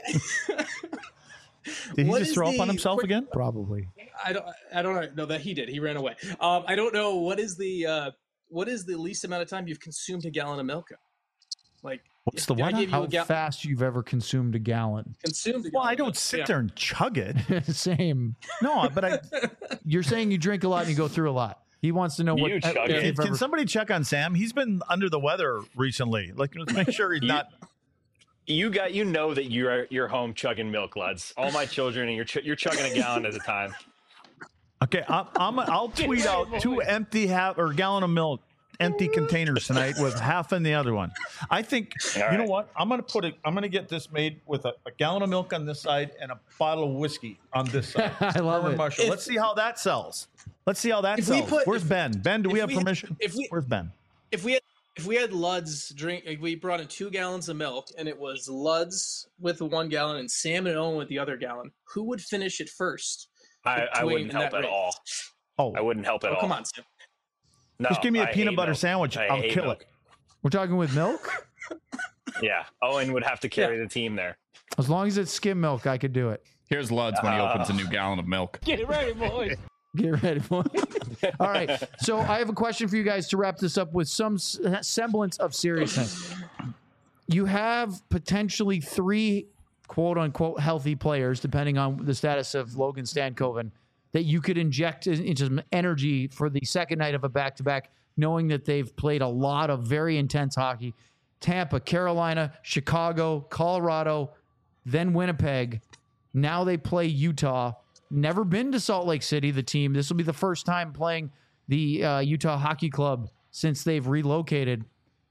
Did he What just is throw up on the himself quick- again? Probably. I don't. I don't know. No, that he did. He ran away. Um, I don't know what is the uh, what is the least amount of time you've consumed a gallon of milk? in? Like, What's the if I what? gave you How a gallon, fast you've ever consumed a gallon? consumed. A Well, gallon I of don't milk. sit Yeah. there and chug it. Same. No, but I You're saying you drink a lot and you go through a lot. He wants to know what. You chug if it. you've can ever- somebody check on Sam? He's been under the weather recently. Like, let's make sure he's You- not. You got you know that you're you're home chugging milk, Luds. All my children and you're ch- you're chugging a gallon at a time. Okay, I'm, I'm I'll tweet out two empty half or gallon of milk, empty containers tonight with half in the other one. I think All you know right. what? I'm gonna put it. I'm gonna get this made with a, a gallon of milk on this side and a bottle of whiskey on this side. I love Herman it. Marshall. If- Let's see how that sells. Let's see how that If we sells. put- Where's if- Ben? Ben, do we if have we- permission? if we- Where's Ben? If we had if we had Luds drink, if we brought in two gallons of milk and it was Luds with the one gallon and Sam and Owen with the other gallon, who would finish it first? I, I Between wouldn't that help at rate. all. Oh, I wouldn't help at Oh, all. come on, Sam. No, just give me a I peanut hate butter milk. sandwich. I I'll hate kill milk. it. We're talking with milk. Yeah, Owen would have to carry the team there. As long as it's skim milk, I could do it. Here's Luds when he opens a new gallon of milk. Get ready, boys. Get ready for it. All right. So I have a question for you guys to wrap this up with some s- semblance of seriousness. You have potentially three quote unquote healthy players, depending on the status of Logan Stankoven, that you could inject in- into some energy for the second night of a back to back, knowing that they've played a lot of very intense hockey. Tampa, Carolina, Chicago, Colorado, then Winnipeg. Now they play Utah. Never been to Salt Lake City, the team. This will be the first time playing the uh, Utah Hockey Club since they've relocated.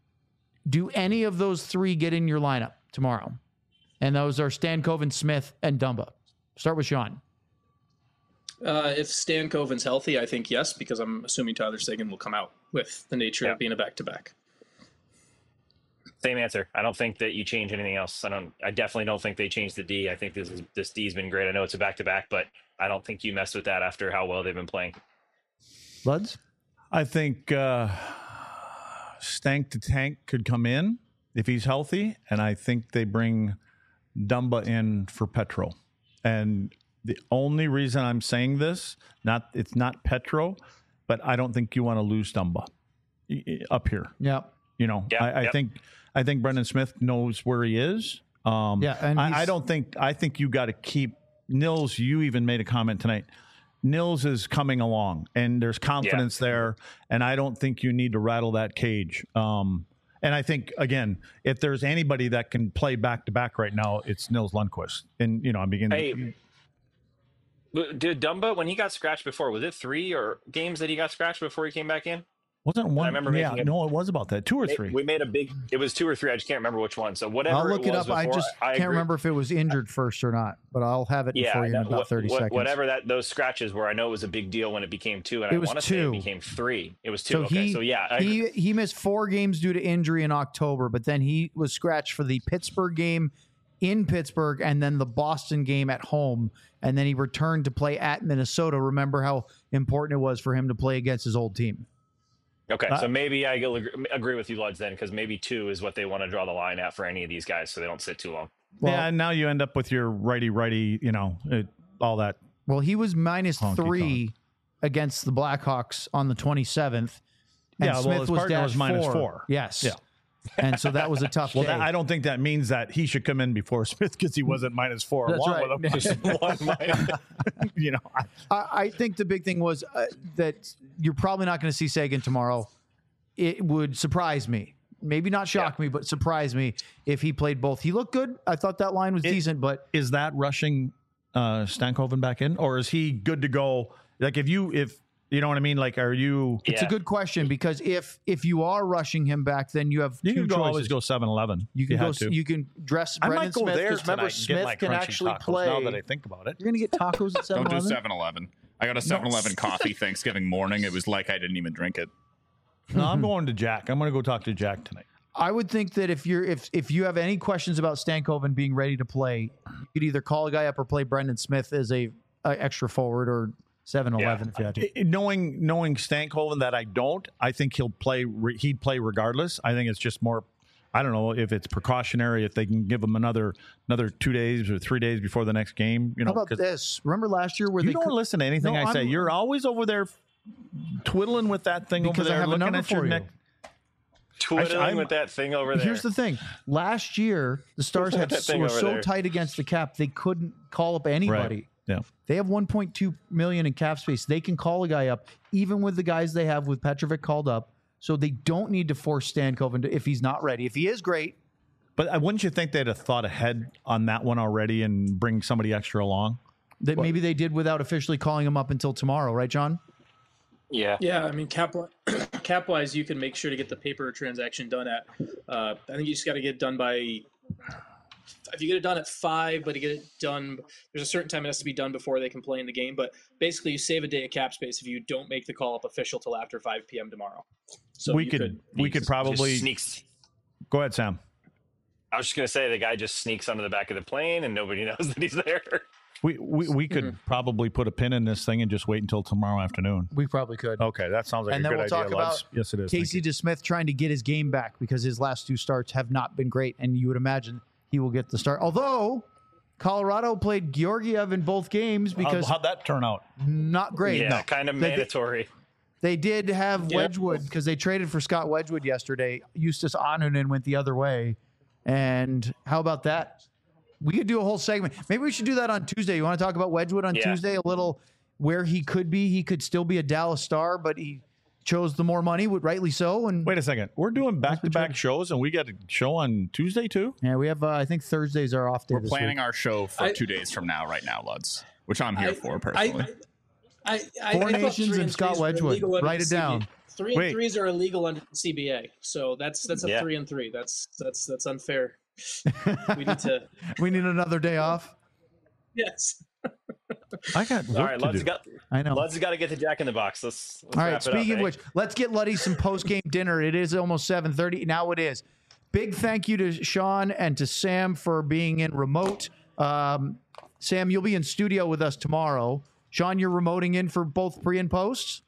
Do any of those three get in your lineup tomorrow? And those are Stankoven, Smith, and Dumba. Start with Sean. Uh, if Stan Coven's healthy, I think yes, because I'm assuming Tyler Seguin will come out with the nature Yeah. of being a back to back. Same answer. I don't think that you change anything else. I don't. I definitely don't think they changed the D. I think this is this D's been great. I know it's a back to back, but I don't think you mess with that after how well they've been playing. Luds? I think uh, Stank the Tank could come in if he's healthy, and I think they bring Dumba in for Petro. And the only reason I'm saying this, not it's not Petro, but I don't think you want to lose Dumba y- y- up here. Yeah. You know, Yeah, I, I yep. think I think Brendan Smith knows where he is. Um, Yeah, and I, I he's- don't think I think you got to keep Nils. You even made a comment tonight. Nils is coming along, and there's confidence there, and I don't think you need to rattle that cage. Um, and I think again, if there's anybody that can play back to back right now, it's Nils Lundqvist. And you know, I'm beginning. Hey, But Did Dumba, when he got scratched before, was it three or games that he got scratched before he came back in? Wasn't one? I remember yeah, making a- no, it was about that. Two or three. We made a big. It was two or three. I just can't remember which one. So whatever. I'll look it, it, up. was I before, just I can't agree. remember if it was injured first or not, but I'll have it Yeah, for you in that- about what- thirty what- seconds. Whatever that those scratches were, I know it was a big deal when it became two, and It I was want to say two. it became three. It was two. So okay, he, so yeah, I, he he missed four games due to injury in October, but then he was scratched for the Pittsburgh game in Pittsburgh and then the Boston game at home, and then he returned to play at Minnesota. Remember how important it was for him to play against his old team. okay. Uh, so maybe I agree agree with you, Luds, then, because maybe two is what they want to draw the line at for any of these guys, so they don't sit too long. Well, yeah, and now you end up with your righty righty, you know, it, all that. Well, he was minus Honky three against the Blackhawks on the twenty-seventh. And Yeah, well, Smith his was partner dash was minus four. four. Yes. Yeah. And so that was a tough Well, day. that, I don't think that means that he should come in before Smith because he wasn't minus four That's along right. with him. Just one minus. you know, I- I, I think the big thing was uh, that you're probably not going to see Sagan tomorrow. It would surprise me. Maybe not shock me, but surprise me if he played both. He looked good. I thought that line was It- decent, but is that rushing uh, Stankoven back in, or is he good to go? Like, if you, if you know what I mean, like, are you? it's a Yeah. good question because if if you are rushing him back, then you have You two can go, choices. always go seven eleven. You can you go. had to. You can dress I Brendan might go Smith there because remember tonight and get my Smith can crunchy actually tacos, play. Now that I think about it, You're gonna get tacos at seven Don't do eleven. seven eleven. I got a seven eleven coffee Thanksgiving morning. It was like I didn't even drink it. no, I'm going to Jack. I'm going to go talk to Jack tonight. I would think that if you're if if you have any questions about Stankoven being ready to play, you could either call a guy up or play Brendan Smith as a, a extra forward or seven eleven if you had to. I- knowing knowing Stankoven that I don't, I think he'll play. re- He'd play regardless. I think it's just more. I don't know if it's precautionary. If they can give him another another two days or three days before the next game, you know. How about 'cause this? Remember last year where You they don't could- listen to anything No, I say. I'm- You're always over there twiddling with that thing Because over I there, have a looking number at your for you. neck. Twiddling I'm- with that thing over there. Here's the thing. Last year, the Stars had That thing were over so there. tight against the cap they couldn't call up anybody. Yeah. They have one point two million in cap space. They can call a guy up, even with the guys they have with Petrovic called up. So they don't need to force Stankoven to, if he's not ready. If he is great, But uh, wouldn't you think they'd have thought ahead on that one already and bring somebody extra along? that maybe they did without officially calling him up until tomorrow, right, John? yeah. Yeah, I mean, cap cap wise, you can make sure to get the paper transaction done at. Uh, I think you just got to get it done by. If you get it done at five, but you get it done, there's a certain time it has to be done before they can play in the game. But basically, you save a day of cap space if you don't make the call up official till after five p.m. tomorrow. So we you could, we could Just probably sneaks. go ahead, Sam. I was just gonna say the guy just sneaks under the back of the plane and nobody knows that he's there. We we, we could Mm-hmm. probably put a pin in this thing and just wait until tomorrow afternoon. We probably could. Okay, that sounds like and a then good we'll idea. talk Lutz. about yes, it is. Thank Casey you. DeSmith trying to get his game back because his last two starts have not been great, and you would imagine he will get the start. Although Colorado played Georgiev in both games because How, how'd that turn out? not great. yeah, No. kind of They- they- mandatory. They did have Yeah. Wedgwood because they traded for Scott Wedgwood yesterday. Eustace Anunen went the other way. And how about that? We could do a whole segment. Maybe we should do that on Tuesday. You want to talk about Wedgwood on Yeah. Tuesday? A little where he could be. He could still be a Dallas Star, but he chose the more money, would rightly so. And Wait a second. We're doing back to back tried. shows, and we got a show on Tuesday too. yeah, we have. Uh, I think Thursdays are off day. We're this planning week. our show for I- two days from now, right now, Luds, which I'm here I- for personally. I, I, I, Four I thought Nations three and Scott threes were Wedgwood. illegal under Write the it C B A. down. Three Wait. and threes are illegal under the C B A, so that's that's a Yeah. three and three. That's that's that's unfair. We need to. We need another day off. Yes. I got work All right, to Lud's do. got I know. Lud's got to get the Jack in the Box. Let's, let's All wrap right. it up, Speaking of eh? which, let's get Luddy some post game dinner. It is almost seven thirty. Now it is. Big thank you to Sean and to Sam for being in remote. Um, Sam, you'll be in studio with us tomorrow. Sean, you're remoting in for both pre and posts.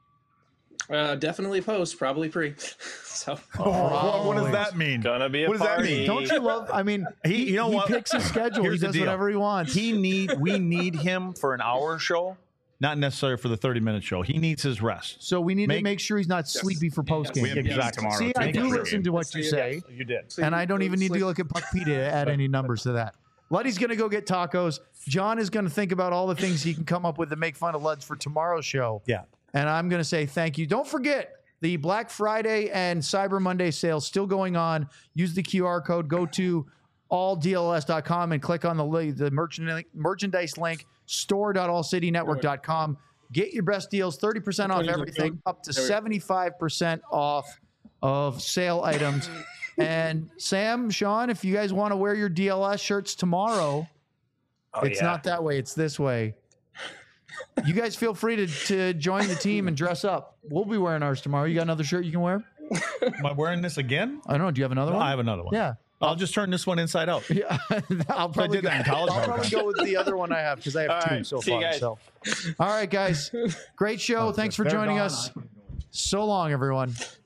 Uh, definitely post, probably pre. So Oh, what does that mean? Gonna be a What does that party. mean? Don't you love? I mean, He- you know he what? picks his schedule. Here's he the does deal. whatever he wants. He need we need him for an hour show, not necessarily for the thirty minute show. He needs his rest. so we need to Make- make sure he's not sleepy for post game. we have games Exactly. tomorrow. See, I too. do Great listen game. to what you say, You did. and I don't even need to look at Puck P to add any numbers to that. Luddy's going to go get tacos. John is going to think about all the things he can come up with to make fun of Luds for tomorrow's show. Yeah. And I'm going to say thank you. Don't forget the Black Friday and Cyber Monday sales still going on. Use the Q R code. Go to all D L S dot com and click on the li- the merchandise merchandise link store dot all city network dot com. Get your best deals, thirty percent off everything, up to seventy-five percent off of sale items. And Sam, Sean, if you guys want to wear your D L S shirts tomorrow, Oh, it's yeah. not that way. It's this way. You guys feel free to, to join the team and dress up. We'll be wearing ours tomorrow. You got another shirt you can wear? Am I wearing this again? I don't know. Do you have another No, one? I have another one. Yeah. I'll just turn this one inside out. Yeah. I'll probably, did that in college I'll all the probably time. go with the other one I have because I have All two right. so See you far. guys. So, all right, guys. Great show. Thanks for They're joining gone. us. So long, everyone.